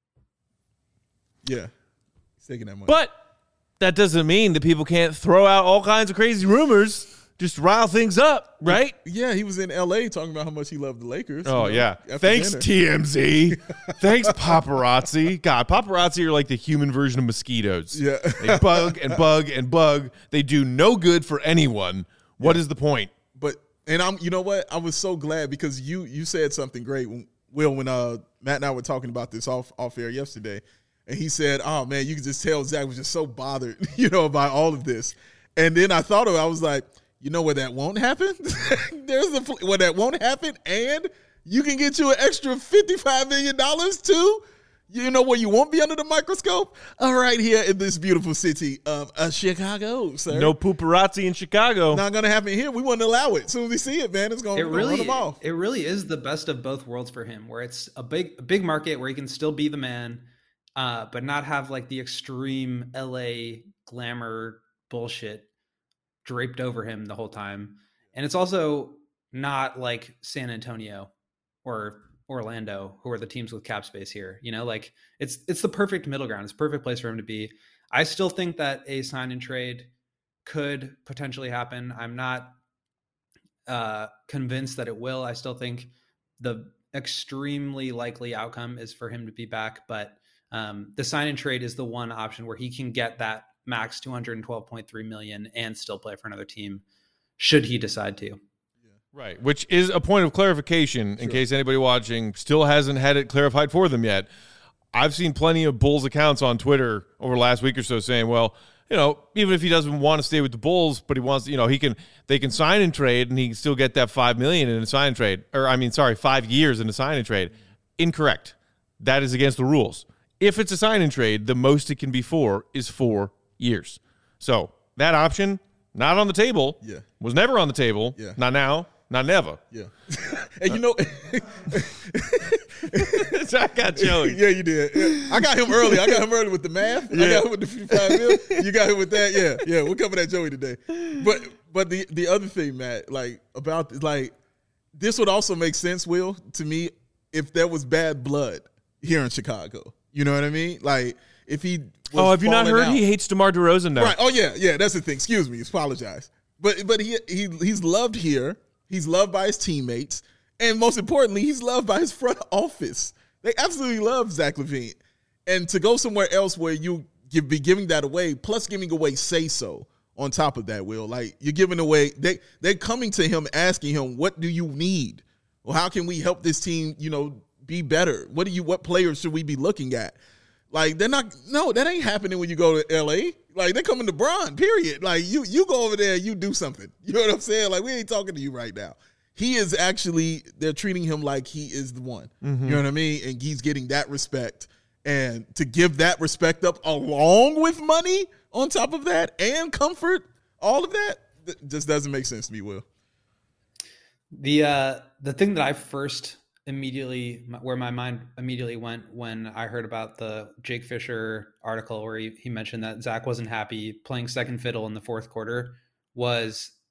Yeah, he's taking that money. But that doesn't mean that people can't throw out all kinds of crazy rumors, just rile things up, right? Yeah, he was in L A talking about how much he loved the Lakers. Oh, you know, yeah. Thanks, dinner. T M Z. Thanks, paparazzi. God, paparazzi are like the human version of mosquitoes. Yeah. They bug and bug and bug. They do no good for anyone. What yeah. is the point? But, and I'm, you know what? I was so glad because you you said something great, when, Will, when uh, Matt and I were talking about this off, off air yesterday. And he said, oh, man, you could just tell Zach was just so bothered, you know, by all of this. And then I thought of it. I was like, you know where that won't happen? There's the where that won't happen, and you can get you an extra fifty-five million dollars too. You know where you won't be under the microscope? All right, here in this beautiful city of uh, Chicago, sir. No paparazzi in Chicago. Not going to happen here. We wouldn't allow it. As soon as we see it, man, it's going to really, run them off. It really is the best of both worlds for him, where it's a big, a big market where he can still be the man, uh, but not have like the extreme L A glamour bullshit draped over him the whole time. And it's also not like San Antonio or Orlando, who are the teams with cap space here. You know, like it's it's the perfect middle ground. It's a perfect place for him to be. I still think that a sign and trade could potentially happen. I'm not uh, convinced that it will. I still think the extremely likely outcome is for him to be back, but um, the sign and trade is the one option where he can get that max two hundred twelve point three million and still play for another team should he decide to. Right, which is a point of clarification in sure. case anybody watching still hasn't had it clarified for them yet. I've seen plenty of Bulls accounts on Twitter over the last week or so saying, well, you know, even if he doesn't want to stay with the Bulls, but he wants, you know, he can, they can sign and trade and he can still get that five million dollars in a sign and trade, or I mean, sorry, five years in a sign and trade. Incorrect. That is against the rules. If it's a sign and trade, the most it can be for is four years. So that option, not on the table, yeah. was never on the table, yeah. not now. Not never. Yeah. And you know, I got Joey. Yeah, you did. Yeah. I got him early. I got him early with the math. Yeah. I got him with the fifty-five mil. You got him with that. Yeah, yeah. We're coming at Joey today. But but the the other thing, Matt, like about like this would also make sense, Will, to me, if there was bad blood here in Chicago. You know what I mean? Like if he. Was oh, have you not heard out. He hates DeMar DeRozan now? Right. Oh yeah, yeah. That's the thing. Excuse me. Apologize. But but he he he's loved here. He's loved by his teammates. And most importantly, he's loved by his front office. They absolutely love Zach LaVine. And to go somewhere else where you give, be giving that away, plus giving away say-so on top of that, Will. Like, you're giving away, they, they're coming to him asking him, what do you need? Well, how can we help this team, you know, be better? What do you, what players should we be looking at? Like, they're not, no, that ain't happening when you go to L A. Like, they're coming to Bron, period. Like, you you go over there, you do something. You know what I'm saying? Like, we ain't talking to you right now. He is actually, they're treating him like he is the one. Mm-hmm. You know what I mean? And he's getting that respect. And to give that respect up along with money on top of that and comfort, all of that, th- just doesn't make sense to me, Will. The, uh, the thing that I first immediately where my mind immediately went when I heard about the Jake Fisher article where he, he mentioned that Zach wasn't happy playing second fiddle in the fourth quarter was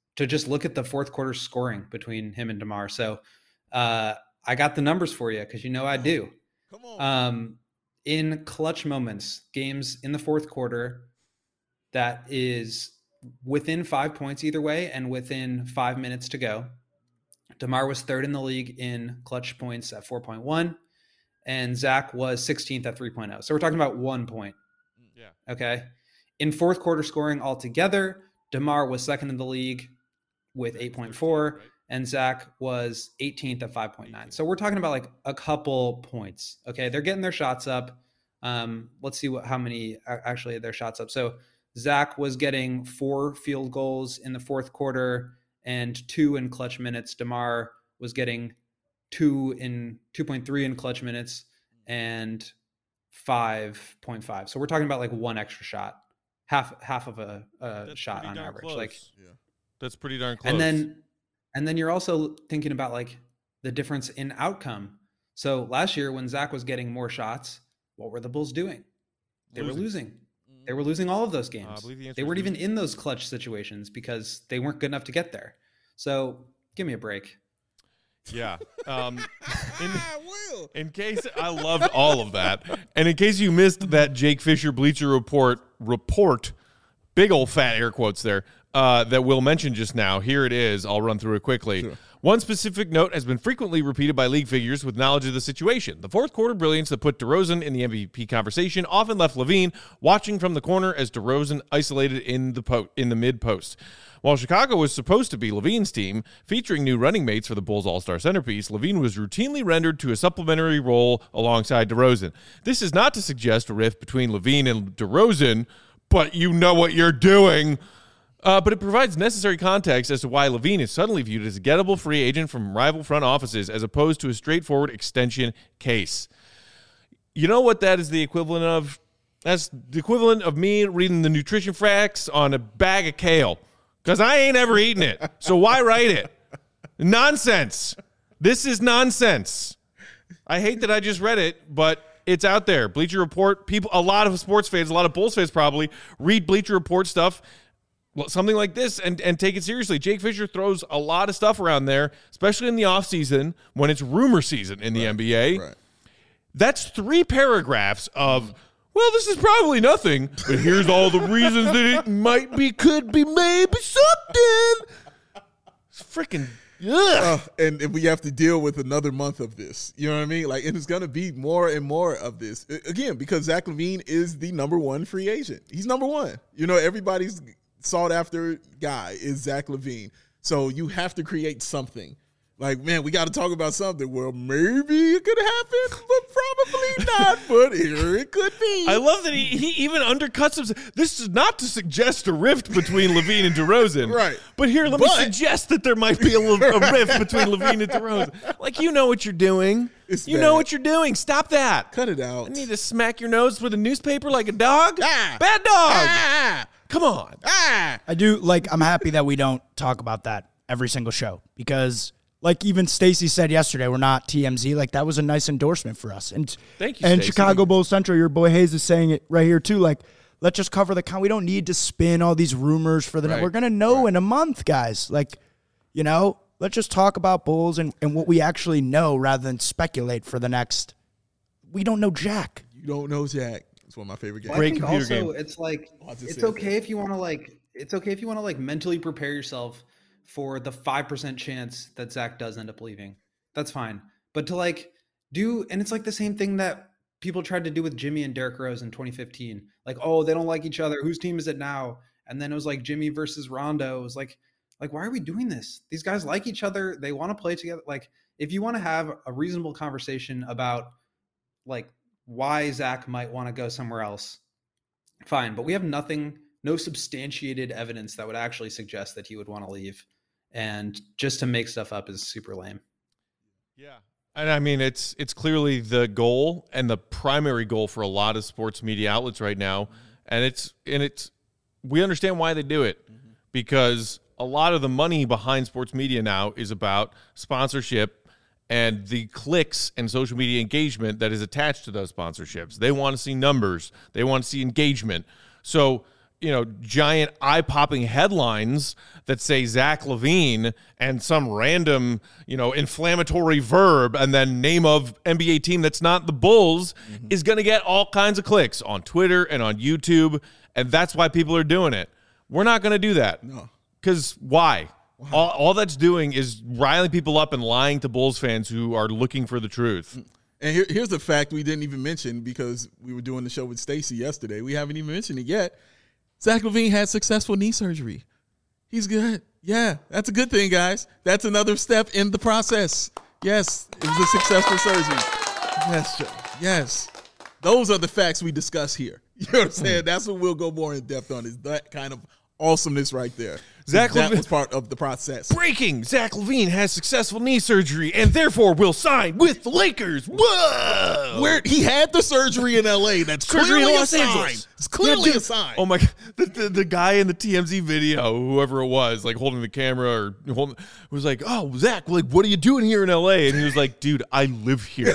to just look at the fourth quarter scoring between him and DeMar. So uh, I got the numbers for you because you know I do. Come on. Um, in clutch moments, games in the fourth quarter that is within five points either way and within five minutes to go, DeMar was third in the league in clutch points at four point one, and Zach was sixteenth at three point oh. So we're talking about one point. Yeah. Okay. In fourth quarter scoring altogether, DeMar was second in the league with eight point four, and Zach was eighteenth at five point nine. So we're talking about like a couple points. Okay. They're getting their shots up. Um, let's see what, how many actually their shots up. So Zach was getting four field goals in the fourth quarter and two in clutch minutes. DeMar was getting two in two point three in clutch minutes and five point five. So we're talking about like one extra shot, half half of a, a shot on average. Close. Like, Yeah. That's pretty darn close. and then and then you're also thinking about like the difference in outcome. So last year when Zach was getting more shots, what were the Bulls doing? They Losing. were losing. They were losing all of those games. Uh, I believe the answer They is weren't even losing. in those clutch situations because they weren't good enough to get there. So give me a break. Yeah. Um, in, Will. in case I loved all of that, and in case you missed that Jake Fisher Bleacher Report report, big old fat air quotes there, uh, that Will mentioned just now, here it is. I'll run through it quickly. Sure. One specific note has been frequently repeated by league figures with knowledge of the situation. The fourth quarter brilliance that put DeRozan in the M V P conversation often left LaVine watching from the corner as DeRozan isolated in the po- in the mid post. While Chicago was supposed to be LaVine's team, featuring new running mates for the Bulls' all-star centerpiece, LaVine was routinely rendered to a supplementary role alongside DeRozan. This is not to suggest a rift between LaVine and DeRozan, but you know what you're doing. Uh, but it provides necessary context as to why LaVine is suddenly viewed as a gettable free agent from rival front offices as opposed to a straightforward extension case. You know what that is the equivalent of? That's the equivalent of me reading the nutrition facts on a bag of kale because I ain't ever eaten it. So why write it? Nonsense. This is nonsense. I hate that I just read it, but it's out there. Bleacher Report, people, a lot of sports fans, a lot of Bulls fans probably read Bleacher Report stuff, something like this, and, and take it seriously. Jake Fisher throws a lot of stuff around there, especially in the offseason when it's rumor season in the Right, N B A. Right. That's three paragraphs of, well, this is probably nothing, but here's all the reasons that it might be, could be, maybe something. It's freaking, Uh, and, and we have to deal with another month of this. You know what I mean? Like, and it's going to be more and more of this. I- Again, because Zach LaVine is the number one free agent. He's number one. You know, everybody's sought after guy is Zach LaVine. So you have to create something. Like, man, we got to talk about something. Well, maybe it could happen, but probably not. But here it could be. I love that he, he even undercuts himself. This is not to suggest a rift between LaVine and DeRozan. Right. But here, let But- me suggest that there might be a, little, a rift between LaVine and DeRozan. Like, you know what you're doing. It's you bad. know what you're doing. Stop that. Cut it out. I need to smack your nose with a newspaper like a dog. Ah. Bad dog. Ah! Come on. Ah! I do like. I'm happy that we don't talk about that every single show because, like even Stacey said yesterday, we're not T M Z. Like that was a nice endorsement for us. And Thank you, And Stacey. Chicago Bulls Central, your boy Hayes is saying it right here too. Like, let's just cover the count. We don't need to spin all these rumors for the. Right. We're gonna know in a month, guys. Like, you know, let's just talk about Bulls and and what we actually know rather than speculate for the next. We don't know jack. You don't know Zach. It's one of my favorite games. Well, I Great think computer also game. it's like I just it's said okay if you want to like it's okay if you want to like mentally prepare yourself for the five percent chance that Zach does end up leaving. That's fine. But to like do and it's like the same thing that people tried to do with Jimmy and Derrick Rose in twenty fifteen. Like, oh, they don't like each other. Whose team is it now? And then it was like Jimmy versus Rondo. It was like like why are we doing this? These guys like each other. They want to play together. Like if you want to have a reasonable conversation about like why Zach might want to go somewhere else, fine, but we have nothing, no substantiated evidence that would actually suggest that he would want to leave. And just to make stuff up is super lame. Yeah. And I mean, it's it's clearly the goal and the primary goal for a lot of sports media outlets right now. And it's and it's we understand why they do it because a lot of the money behind sports media now is about sponsorship and the clicks and social media engagement that is attached to those sponsorships. They want to see numbers. They want to see engagement. So you know, giant eye-popping headlines that say Zach LaVine and some random, you know, inflammatory verb and then name of N B A team that's not the Bulls mm-hmm. is going to get all kinds of clicks on Twitter and on YouTube, and that's why people are doing it. We're not going to do that. No. Because why? Wow. All, all that's doing is riling people up and lying to Bulls fans who are looking for the truth. And here, here's the fact we didn't even mention because we were doing the show with Stacey yesterday. We haven't even mentioned it yet. Zach LaVine had successful knee surgery. He's good. Yeah, that's a good thing, guys. That's another step in the process. Yes, it was a successful surgery. Yes, Joe. Yes. Those are the facts we discuss here. You know what I'm saying? That's what we'll go more in depth on, is that kind of awesomeness right there. Zach that LaVine, was part of the process. Breaking: Zach LaVine has successful knee surgery and therefore will sign with the Lakers. Whoa! Where he had the surgery in L A. That's surgery clearly in a Los sign. Angeles. It's clearly Yeah, dude. a sign. Oh my God! The, the the guy in the T M Z video, whoever it was, like holding the camera or holding, was like, "Oh, Zach, like, what are you doing here in L A?" And he was like, "Dude, I live here."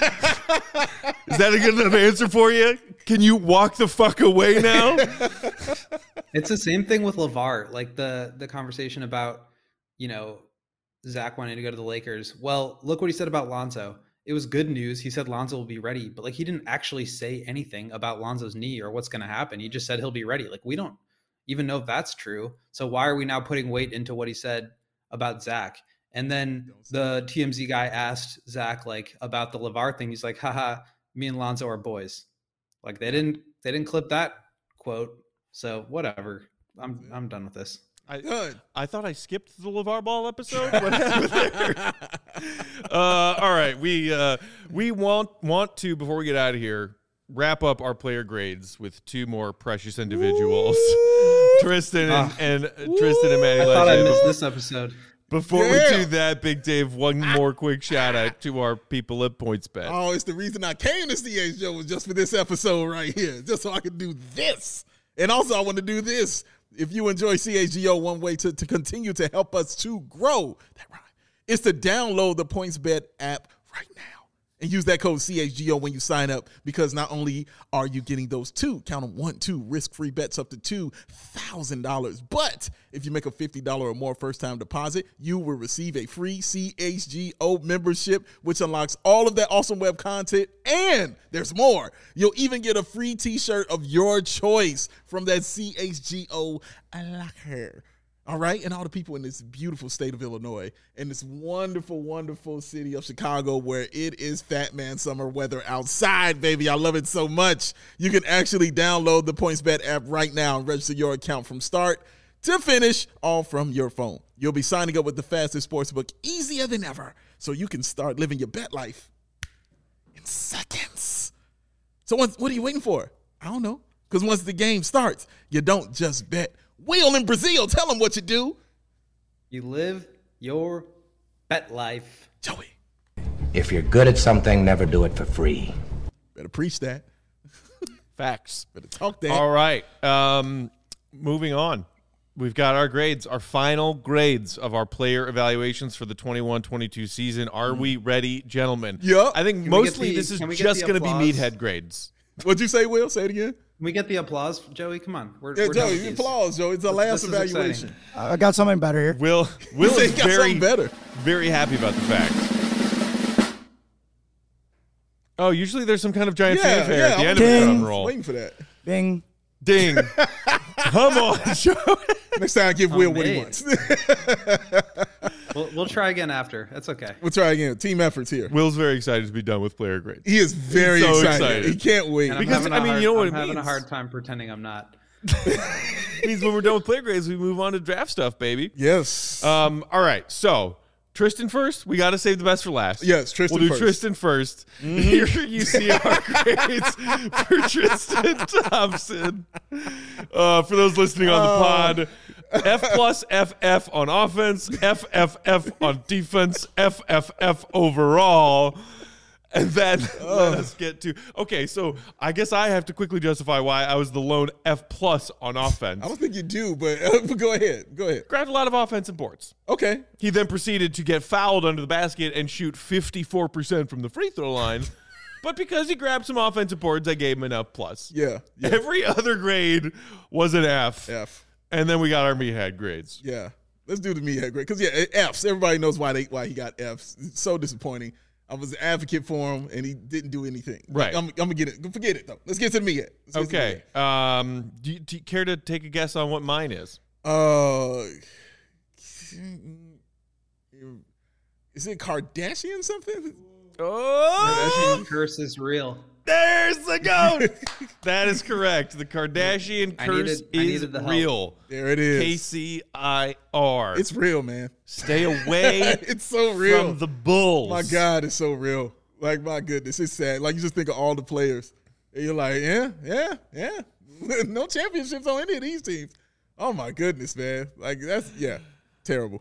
Is that a good enough answer for you? Can you walk the fuck away now? It's the same thing with LeVar, like the the conversation about, you know, Zach wanting to go to the Lakers. Well, look what he said about Lonzo. It was good news. He said Lonzo will be ready, but like he didn't actually say anything about Lonzo's knee or what's going to happen. He just said he'll be ready. Like we don't even know if that's true. So why are we now putting weight into what he said about Zach? And then the T M Z guy asked Zach like about the LeVar thing. He's like, haha, me and Lonzo are boys. Like they didn't they didn't clip that quote. So whatever. I'm I'm done with this. I, Good. I thought I skipped the LeVar Ball episode. What happened there? uh, all right, we uh, we want want to, before we get out of here, wrap up our player grades with two more precious individuals, Tristan and, Ah. and uh, Tristan and Manny I thought I Legend. missed this episode. Before Yeah. we do that, Big Dave, one more quick shout out to our people at PointsBet. Oh, it's the reason I came to C H Joe was just for this episode right here, just so I could do this. And also, I want to do this. If you enjoy C H G O, one way to, to continue to help us to grow, that right, is to download the PointsBet app right now and use that code C H G O when you sign up, because not only are you getting those two, count them, one, two, risk-free bets up to two thousand dollars, but if you make a fifty dollars or more first-time deposit, you will receive a free C H G O membership, which unlocks all of that awesome web content, and there's more. You'll even get a free t-shirt of your choice from that C H G O locker. All right, and all the people in this beautiful state of Illinois and this wonderful, wonderful city of Chicago, where it is Fat Man summer weather outside, baby. I love it so much. You can actually download the PointsBet app right now and register your account from start to finish, all from your phone. You'll be signing up with the fastest sportsbook easier than ever, so you can start living your bet life in seconds. So what, what are you waiting for? I don't know, because once the game starts, you don't just bet. Will in Brazil, tell them what you do. You live your bet life. Joey. If you're good at something, never do it for free. Better preach that. Facts. Better talk that. All right. Um, moving on. We've got our grades, our final grades of our player evaluations for the twenty-one twenty-two season. Are we ready, gentlemen? Yep. I think Can we get mostly the- this is can we get just the going to be applause? meathead grades. What'd you say, Will? Say it again. Can we get the applause, Joey? Come on. We're, Yeah, we're done Joey, with these. applause, Joey. It's the This- last this is evaluation. exciting. I got something better here. Will Will said is he got very something better. very happy about the fact. Oh, usually there's some kind of giant Yeah, fanfare yeah. at the I'm end of the Ding. drum roll. waiting for that. Bing. Ding. Come on, Joey. Next time, give Will Oh, what he man. wants. We'll, we'll try again after. That's okay. We'll try again. Team efforts here. Will's very excited to be done with player grades. He is very so excited. excited. He can't wait. And I'm Because, having a I mean, hard, you know what I'm it having means. a hard time pretending I'm not. It means when we're done with player grades, we move on to draft stuff, baby. Yes. Um, all right, so Tristan first. We got to save the best for last. Yes, Tristan We'll do first. Tristan first. Here you see our grades for Tristan Thompson. Uh, for those listening on the pod, F plus F F on offense, F F F on defense, F F F overall. And then let us get to okay. So I guess I have to quickly justify why I was the lone F plus on offense. I don't think you do, but uh, go ahead. Go ahead. Grabbed a lot of offensive boards. Okay. He then proceeded to get fouled under the basket and shoot fifty-four percent from the free throw line, But because he grabbed some offensive boards, I gave him an F plus. Yeah, yeah. Every other grade was an F. F. And then we got our meathead grades. Yeah. Let's do the meathead grade. Because, yeah, Fs. Everybody knows why they why he got Fs. It's so disappointing. I was an advocate for him, and he didn't do anything. Right. Like, I'm, I'm going to get it. Forget it, though. Let's get to the meathead. Let's get Okay. to the meathead. Um, do, you, do you care to take a guess on what mine is? Uh, is it Kardashian something? Oh, Kardashian curse is real. there's the goat. That is correct. The Kardashian I curse needed- I is needed the help. real. There it is. K C I R. It's real, man. Stay away It's so real. from the Bulls. My God, it's so real. Like, my goodness, it's sad. Like, you just think of all the players. And you're like, yeah, yeah, yeah. No championships on any of these teams. Oh, my goodness, man. Like, that's, yeah, terrible.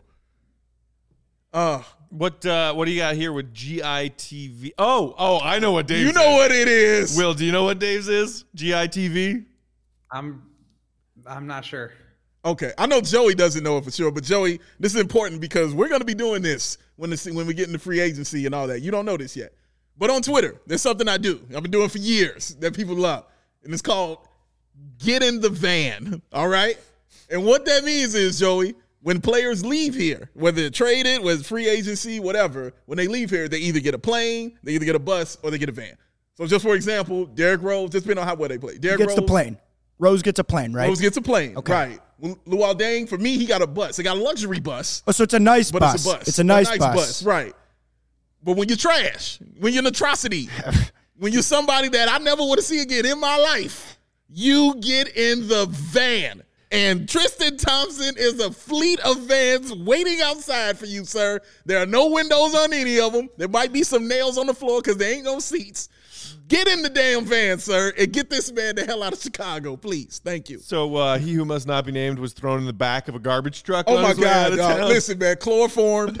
Uh, What uh, what do you got here with G I T V? Oh, oh, I know what Dave's you know is. what it is. Will, do you know what Dave's is? G I T V? I'm I'm not sure. Okay, I know Joey doesn't know it for sure, but Joey, this is important because we're going to be doing this when the, when we get into free agency and all that. You don't know this yet. But on Twitter, there's something I do. I've been doing for years that people love, and it's called Get in the Van, all right? And what that means is, Joey, when players leave here, whether they're traded, whether it's free agency, whatever, when they leave here, they either get a plane, they either get a bus, or they get a van. So just for example, Derrick Rose, just depending on how well they play. He Derrick gets Rose, the plane. Rose gets a plane, right? Rose gets a plane, Okay. right. Luol Deng, for me, he got a bus. He got a luxury bus, Oh, so it's a nice but bus. it's a bus. It's a nice, bus. right. But when you're trash, when you're an atrocity, when you're somebody that I never want to see again in my life, you get in the van. And Tristan Thompson is a fleet of vans waiting outside for you, sir. There are no windows on any of them. There might be some nails on the floor because there ain't no seats. Get in the damn van, sir, and get this man the hell out of Chicago, please. Thank you. So uh, he who must not be named was thrown in the back of a garbage truck. Oh, on my his way out God, of dog. town. Listen, man, chloroformed,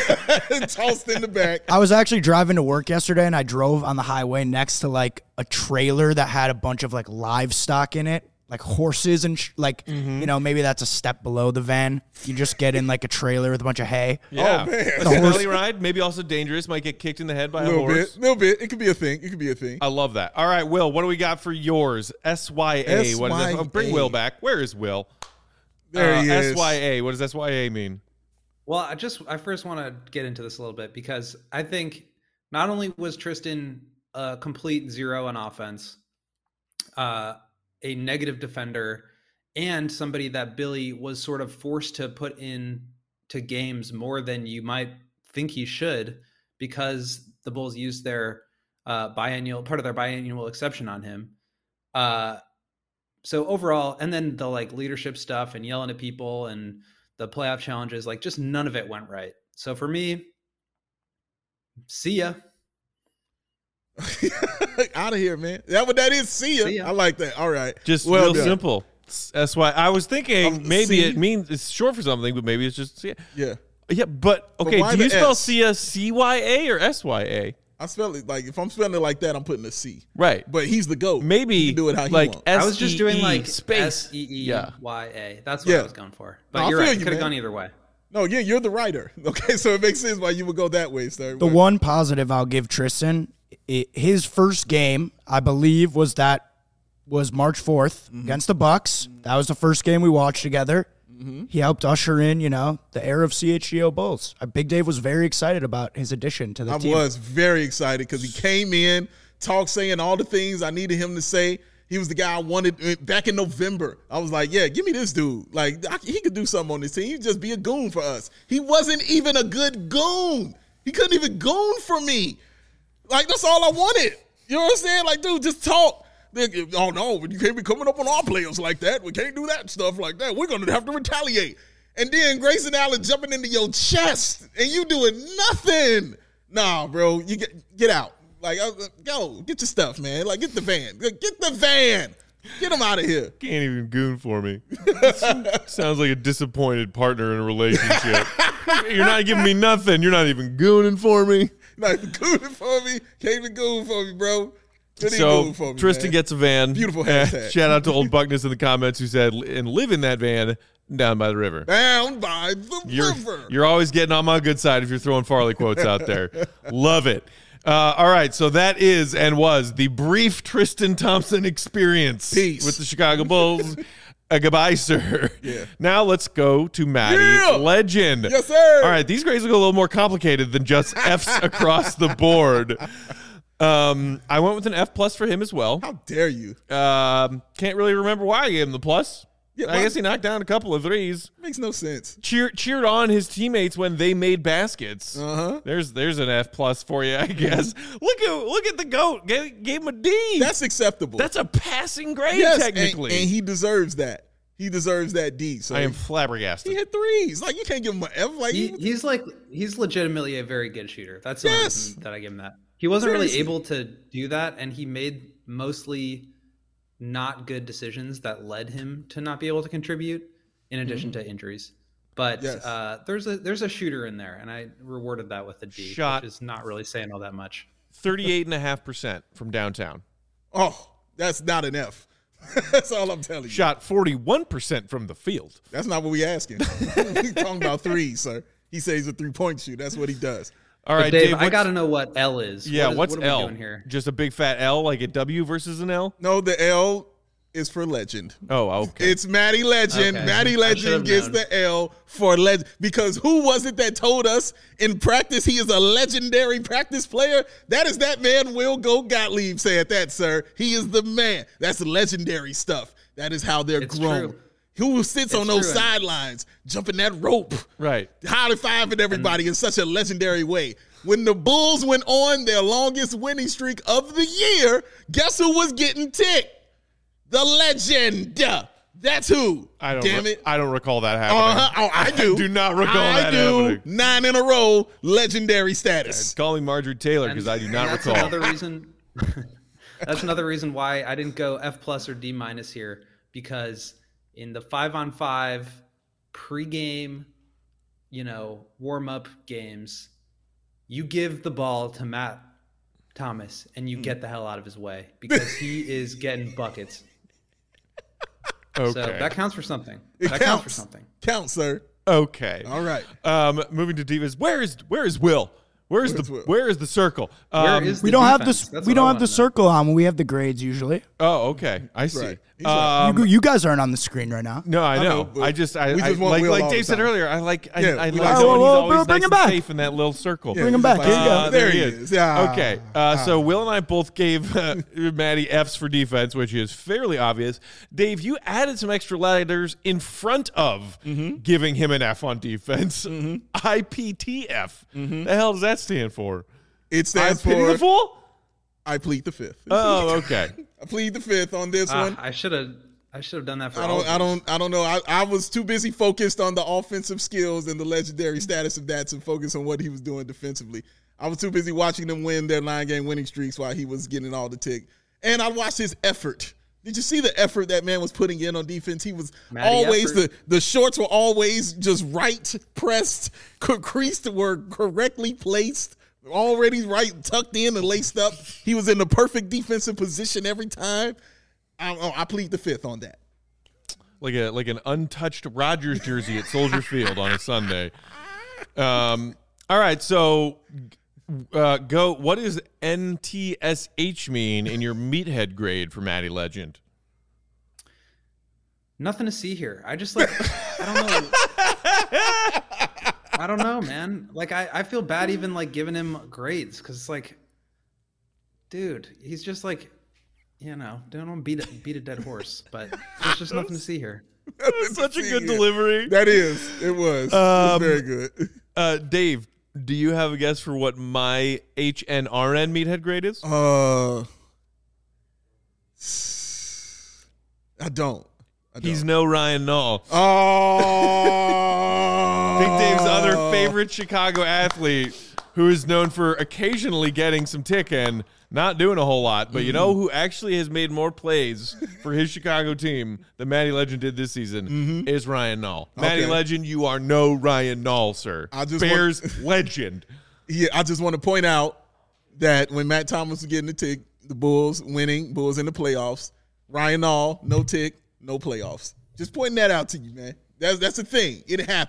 tossed in the back. I was actually driving to work yesterday, and I drove on the highway next to like a trailer that had a bunch of like livestock in it, like horses and sh- like you know maybe that's a step below the van. You just get in like a trailer with a bunch of hay. Yeah. Oh, man. The horse- belly ride, maybe also dangerous. Might get kicked in the head by A a little horse. bit, little bit. It could be a thing. It could be a thing. I love that. All right, Will, what do we got for yours? S Y A. What is that? Oh, bring S Y A. Will back. Where is Will? There uh, he is. S Y A. What does S Y A mean? Well, I just I first want to get into this a little bit because I think not only was Tristan a complete zero on offense, uh, a negative defender, and somebody that Billy was sort of forced to put in to games more than you might think he should because the Bulls used their uh, biennial part of their biennial exception on him. Uh, so overall, and then the like leadership stuff and yelling at people and the playoff challenges, like just none of it went right. So for me, see ya. Out of here, man. That what that is. See ya. See ya. I like that. All right. Just Well real done. simple. S Y. I was thinking Um, maybe C? it means it's short for something, but maybe it's just C. Yeah. Yeah, but okay. why do you the spell S? Sia C Y A or S Y A? I spell it like if I'm spelling it like that, I'm putting a C. Right. But he's the GOAT. Maybe he can do it how he like wants. S I was just doing E E like space. S E E Yeah. Y A. That's what Yeah. I was going for. But No, I you're feel right. you, It could have man. gone either way. No, yeah, you're the writer. Okay, so it makes sense why you would go that way, sir. The one positive I'll give Tristan, i his first game, I believe, was that was March fourth against the Bucks. That was the first game we watched together. He helped usher in, you know, the era of C H G O Bulls. Uh, Big Dave was very excited about his addition to the I team. was very excited because he came in, talked, saying all the things I needed him to say. He was the guy I wanted back in November. I was like, yeah, give me this dude. Like, I, he could do something on this team. He'd just be a goon for us. He wasn't even a good goon. He couldn't even goon for me. Like, that's all I wanted. You know what I'm saying? Like, dude, just talk. They, oh, no, you can't be coming up on our players like that. We can't do that stuff like that. We're going to have to retaliate. And then Grayson Allen jumping into your chest and you doing nothing. Nah, bro, you get get out. Like, uh, go, get your stuff, man. Like, get the van. Get the van. Get him out of here. Can't even goon for me. Sounds like a disappointed partner in a relationship. You're not giving me nothing. You're not even gooning for me. Not even gooning for me. Can't even goon for me, bro. Couldn't even So goon for me, Tristan man. gets a van. Beautiful Uh, hashtag. shout out to Old Buckness in the comments who said, and live in that van down by the river. Down by the You're, river. you're always getting on my good side if you're throwing Farley quotes out there. Love it. Uh, all right, so that is and was the brief Tristan Thompson experience Peace. with the Chicago Bulls. Uh, goodbye, sir. Yeah. Now let's go to Matty Yeah. Legend. Yes, sir. All right, these grades will go a little more complicated than just F's across the board. Um, I went with an F plus for him as well. How dare you? Um, can't really remember why I gave him the plus. Yeah, I why- guess he knocked down a couple of threes. Makes no sense. Cheer, cheered on his teammates when they made baskets. Uh-huh. There's there's an F plus for you, I guess. look at look at the GOAT. Gave, gave him a D. That's acceptable. That's a passing grade, yes, technically. And, and he deserves that. He deserves that D. So I am he flabbergasted. hit threes. Like, you can't give him an F. Like, He, he, he's like he's legitimately a very good shooter. That's the only Yes. reason that I give him that. He wasn't really Seriously. able to do that, and he made mostly not good decisions that led him to not be able to contribute, in addition to injuries. But Yes. uh, there's a there's a shooter in there, and I rewarded that with a D, Shot. which is not really saying all that much. thirty-eight point five percent from downtown. oh, that's not an F. That's all I'm telling you. Shot forty-one percent from the field. That's not what we asking. we talking about threes, sir. He says he's a three-point shooter. That's what he does. All But right, Dave, Dave, I what's- got to know what L is. Yeah, what is, what's what are we L? doing here? Just a big fat L, like a W versus an L? No, the L is for legend. Oh, okay. It's Matty Legend. Okay. Matty I should've Legend gets known. the L for legend. Because who was it that told us in practice he is a legendary practice player? That is that man, Will Go Gottlieb, said that, sir. He is the man. That's legendary stuff. That is how they're It's grown. true. Who sits on It's those true. sidelines, jumping that rope, right. high-fiving everybody in such a legendary way. When the Bulls went on their longest winning streak of the year, guess who was getting ticked? The legend. That's who. I don't Damn re- it. I don't recall that happening. Uh-huh. Oh, I do. do not recall I that do. happening. Nine in a row, legendary status. Call me Marjorie Taylor because I do And not that's recall. Another reason. That's another reason why I didn't go F plus or D minus here, because in the five on five pregame, you know, warm up games, you give the ball to Matt Thomas and you get the hell out of his way because he is getting buckets. Okay. So that counts for something. It that counts. counts for something. Count, sir. Okay. All right. Um, moving to divas. Where is where is Will? Where's Where's the Will? where is the circle? Where Um, is We the don't have defense? this. That's We what don't I have wanna the know. circle on when we have the grades usually. Oh, okay. I see. right. He's right. Um, you, you guys aren't on the screen right now. no, I I know. know, but I just I, we I just want like Will like all Dave the said time. earlier. I like I, Yeah, I we like like knowing Will. he's Will, always Will, nice bring and him back. safe in that little circle. Yeah, Bring him he's back. like, Here you go. Uh, there there he he is. Yeah. Okay, uh, so Will and I both gave uh, Maddie F's for defense, which is fairly obvious. Dave, you added some extra letters in front of giving him an F on defense. I P T F. The hell does that stand for? It I stands pity for the fool? I plead the fifth. Oh, okay. I plead the fifth on this Ah, one. I should have. I should have done that for I all don't. of I these. don't. I don't know. I, I was too busy focused on the offensive skills and the legendary status of that to focus on what he was doing defensively. I was too busy watching them win their nine game winning streaks while he was getting all the tick. And I watched his effort. Did you see the effort that man was putting in on defense? He was Matty always effort. the the shorts were always just right pressed, creased were correctly placed. Already right, tucked in and laced up. He was in the perfect defensive position every time. I, I plead the fifth on that. Like a like an untouched Rodgers jersey at Soldier Field on a Sunday. Um. All right. So, uh, go. What does N T S H mean in your meathead grade for Matty Legend? Nothing to see here. I just like I don't know. I don't know, man. Like I, I feel bad even like giving him grades because it's like, dude, he's just like, you know, don't want to beat a, beat a dead horse, but there's just nothing to see here. Such a good delivery. That is. It was. Um, it was very good. Uh, Dave, do you have a guess for what my H N R N meathead grade is? Uh, I don't. I don't. He's no Ryan Nall. Oh. Big Dave's other favorite Chicago athlete, who is known for occasionally getting some tick and not doing a whole lot. But you know who actually has made more plays for his Chicago team than Matty Legend did this season is Ryan Nall. Matty Okay. Legend, you are no Ryan Nall, sir. I just Bears want- legend. Yeah, I just want to point out that when Matt Thomas was getting the tick, the Bulls winning, Bulls in the playoffs, Ryan Nall, no tick, no playoffs. Just pointing that out to you, man. That's that's the thing. It happened.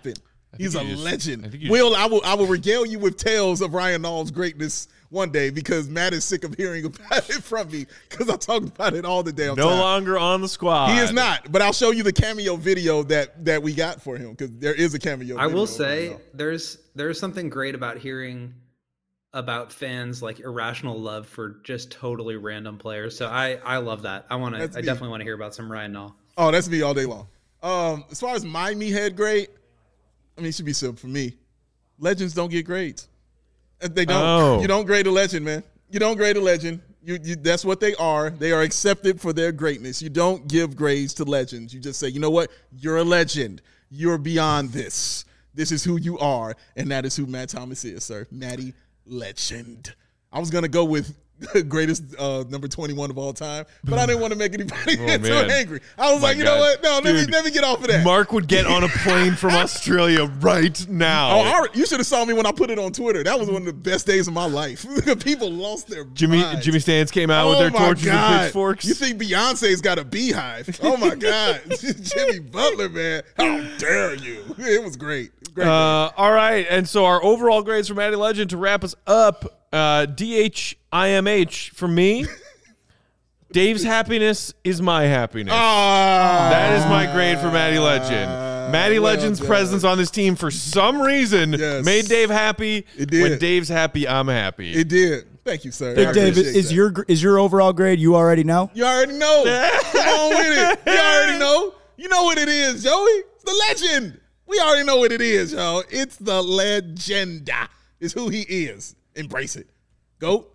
He's a just, legend. I think you Will, I will I will regale you with tales of Ryan Nall's greatness one day because Matt is sick of hearing about it from me because I talk about it all the damn no time. No longer on the squad. He is not, but I'll show you the cameo video that, that we got for him because there is a cameo I video. will say there's there's something great about hearing about fans like irrational love for just totally random players. So I, I love that. I want to. I me. definitely want to hear about some Ryan Nall. Oh, that's me all day long. Um, as far as my me head grade, I mean, it should be simple for me. Legends don't get grades. They don't. Oh. You don't grade a legend, man. You don't grade a legend. You, you that's what they are. They are accepted for their greatness. You don't give grades to legends. You just say, you know what? You're a legend. You're beyond this. This is who you are, and that is who Matt Thomas is, sir. Matty Legend. I was gonna go with greatest uh, number twenty-one of all time, but I didn't want to make anybody Oh, get too man. angry. I was My like, you God. know what? No, let me Dude, let me get off of that. Mark would get on a plane from Australia right now. Oh, I, you should have saw me when I put it on Twitter. That was one of the best days of my life. People lost their Jimmy minds. Jimmy Stans came out with Oh their my torches God. and pitchforks. You think Beyonce's got a beehive? Oh my God, Jimmy Butler, man! How dare you? It was great. Great. Uh, all right, and so our overall grades for Matty Legend to wrap us up. Uh, D H I M H for me. Dave's happiness is my happiness. Ah, That is my grade for Matty Legend. Matty well Legend's done. presence on this team for some reason Yes. made Dave happy. It did. When Dave's happy, I'm happy. It did. Thank you, sir. I Big Dave, appreciate is that. your is your overall grade? You already know. You already know. Come on with it. You already know. You know what it is, Joey. It's the legend. We already know what it is, y'all. It's the legenda. It's who he is. Embrace it. Go.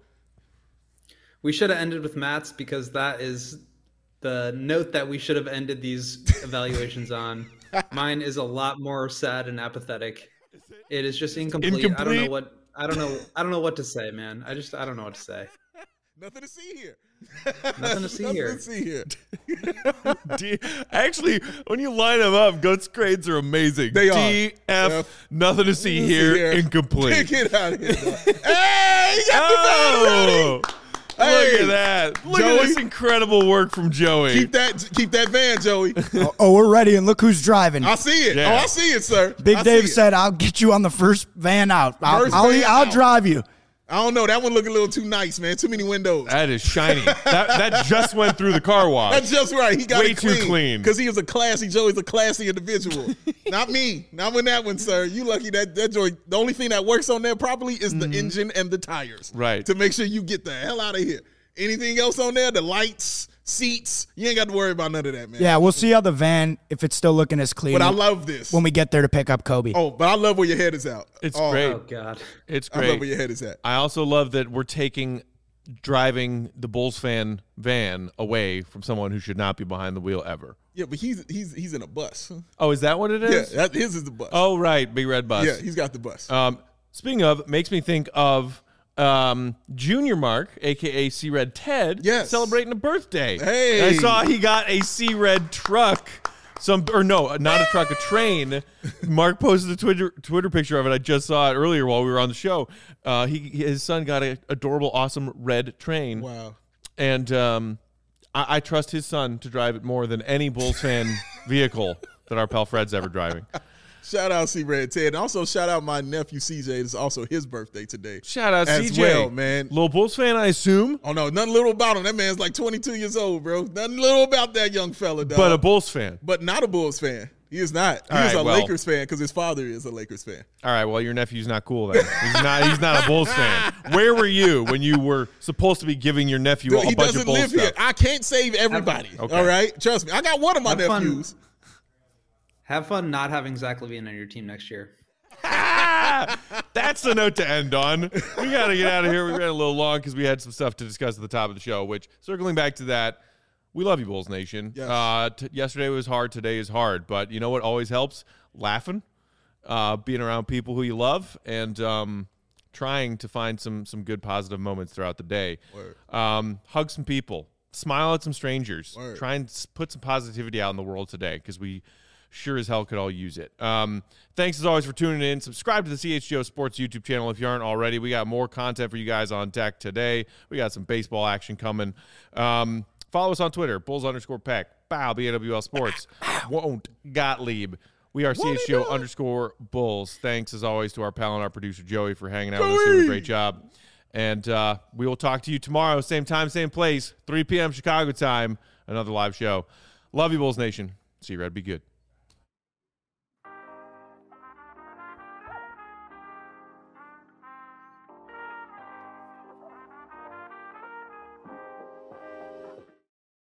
We should have ended with Matt's because that is the note that we should have ended these evaluations on. Mine is a lot more sad and apathetic. It is just incomplete. I don't Incomplete? know what I don't know I don't know what to say, man. I just I don't know what to say. Nothing to see here. Nothing to see Nothing here. to see here. D- Actually, when you line them up, Goat's grades are amazing. They are. D, F, F, nothing to see Nothing to here, see here. incomplete. Get out of here. dog. Hey, you got Oh, the look Hey, at that. Look Joey. at this incredible work from Joey. Keep that keep that van, Joey. Oh, oh, we're ready, and look who's driving. I see it. Yeah. Oh, I see it, sir. Big I Dave see it. said, "I'll get you on the first van out. I'll, First I'll, van I'll out. drive you." I don't know. That one look a little too nice, man. Too many windows. That is shiny. that that just went through the car wash. That's just right. He got Way it too clean. clean. Because he is a classy, Joey's a classy individual. Not me. Not with that one, sir. You lucky that that Joey, the only thing that works on there properly is the engine and the tires. Right. To make sure you get the hell out of here. Anything else on there, the lights, seats, you ain't got to worry about none of that, man. Yeah, we'll see how the van, if it's still looking as clean, But I love this. when we get there to pick up Kobe. oh, but I love where your head is out. It's oh, great. Oh God. It's I love where great. your head is at. I also love that we're taking driving the Bulls fan van away from someone who should not be behind the wheel ever. Yeah, but he's he's he's in a bus. Oh, is that what it Yeah, is? that, his is the bus. Oh, right. Big red bus. yeah, he's got the bus. Um, speaking of, makes me think of um, Junior Mark, a k a. C-Red Ted, Yes. celebrating a birthday. Hey. I saw he got a C-Red truck. Some or no, not a truck, a train. Mark posted a Twitter Twitter picture of it. I just saw it earlier while we were on the show. Uh, he his son got an adorable, awesome red train. Wow. And um, I, I trust his son to drive it more than any Bulls fan vehicle that our pal Fred's ever driving. Shout out C Red Ted. And also shout out my nephew C J. It's also his birthday today. Shout out As C J, well, man. Little Bulls fan, I assume, Oh no, nothing little about him. That man's like twenty-two years old, bro. Nothing little about that young fella, dog. but a Bulls fan. But not a Bulls fan. He is not. He All is right, a well. Lakers fan because his father is a Lakers fan. All right, well, your nephew's not cool then. He's not. He's not a Bulls fan. Where were you when you were supposed to be giving your nephew Dude, a he bunch doesn't of Bulls live stuff? here. I can't save everybody. Okay. All right, trust me. I got one of my Have fun. nephews. Have fun not having Zach LaVine on your team next year. Ah, that's the note to end on. We got to get out of here. We ran a little long because we had some stuff to discuss at the top of the show, which, circling back to that, we love you, Bulls Nation. Yes. Uh, t- yesterday was hard. Today is hard. But you know what always helps? Laughing, uh, being around people who you love, and um, trying to find some some good positive moments throughout the day. Word. Um, hug some people. Smile at some strangers. Word. Try and s- put some positivity out in the world today because we sure as hell could all use it. Um, thanks as always for tuning in. Subscribe to the C H G O Sports YouTube channel if you aren't already. We got more content for you guys on deck today. We got some baseball action coming. Um, follow us on Twitter, Bulls underscore Peck, Bow, B A W L Sports, Won't Gottlieb. We are C H G O underscore Bulls. Thanks, as always, to our pal and our producer, Joey, for hanging out with us, doing a great job. And uh, we will talk to you tomorrow, same time, same place, three p.m. Chicago time, another live show. Love you, Bulls Nation. See you, Red. Be good.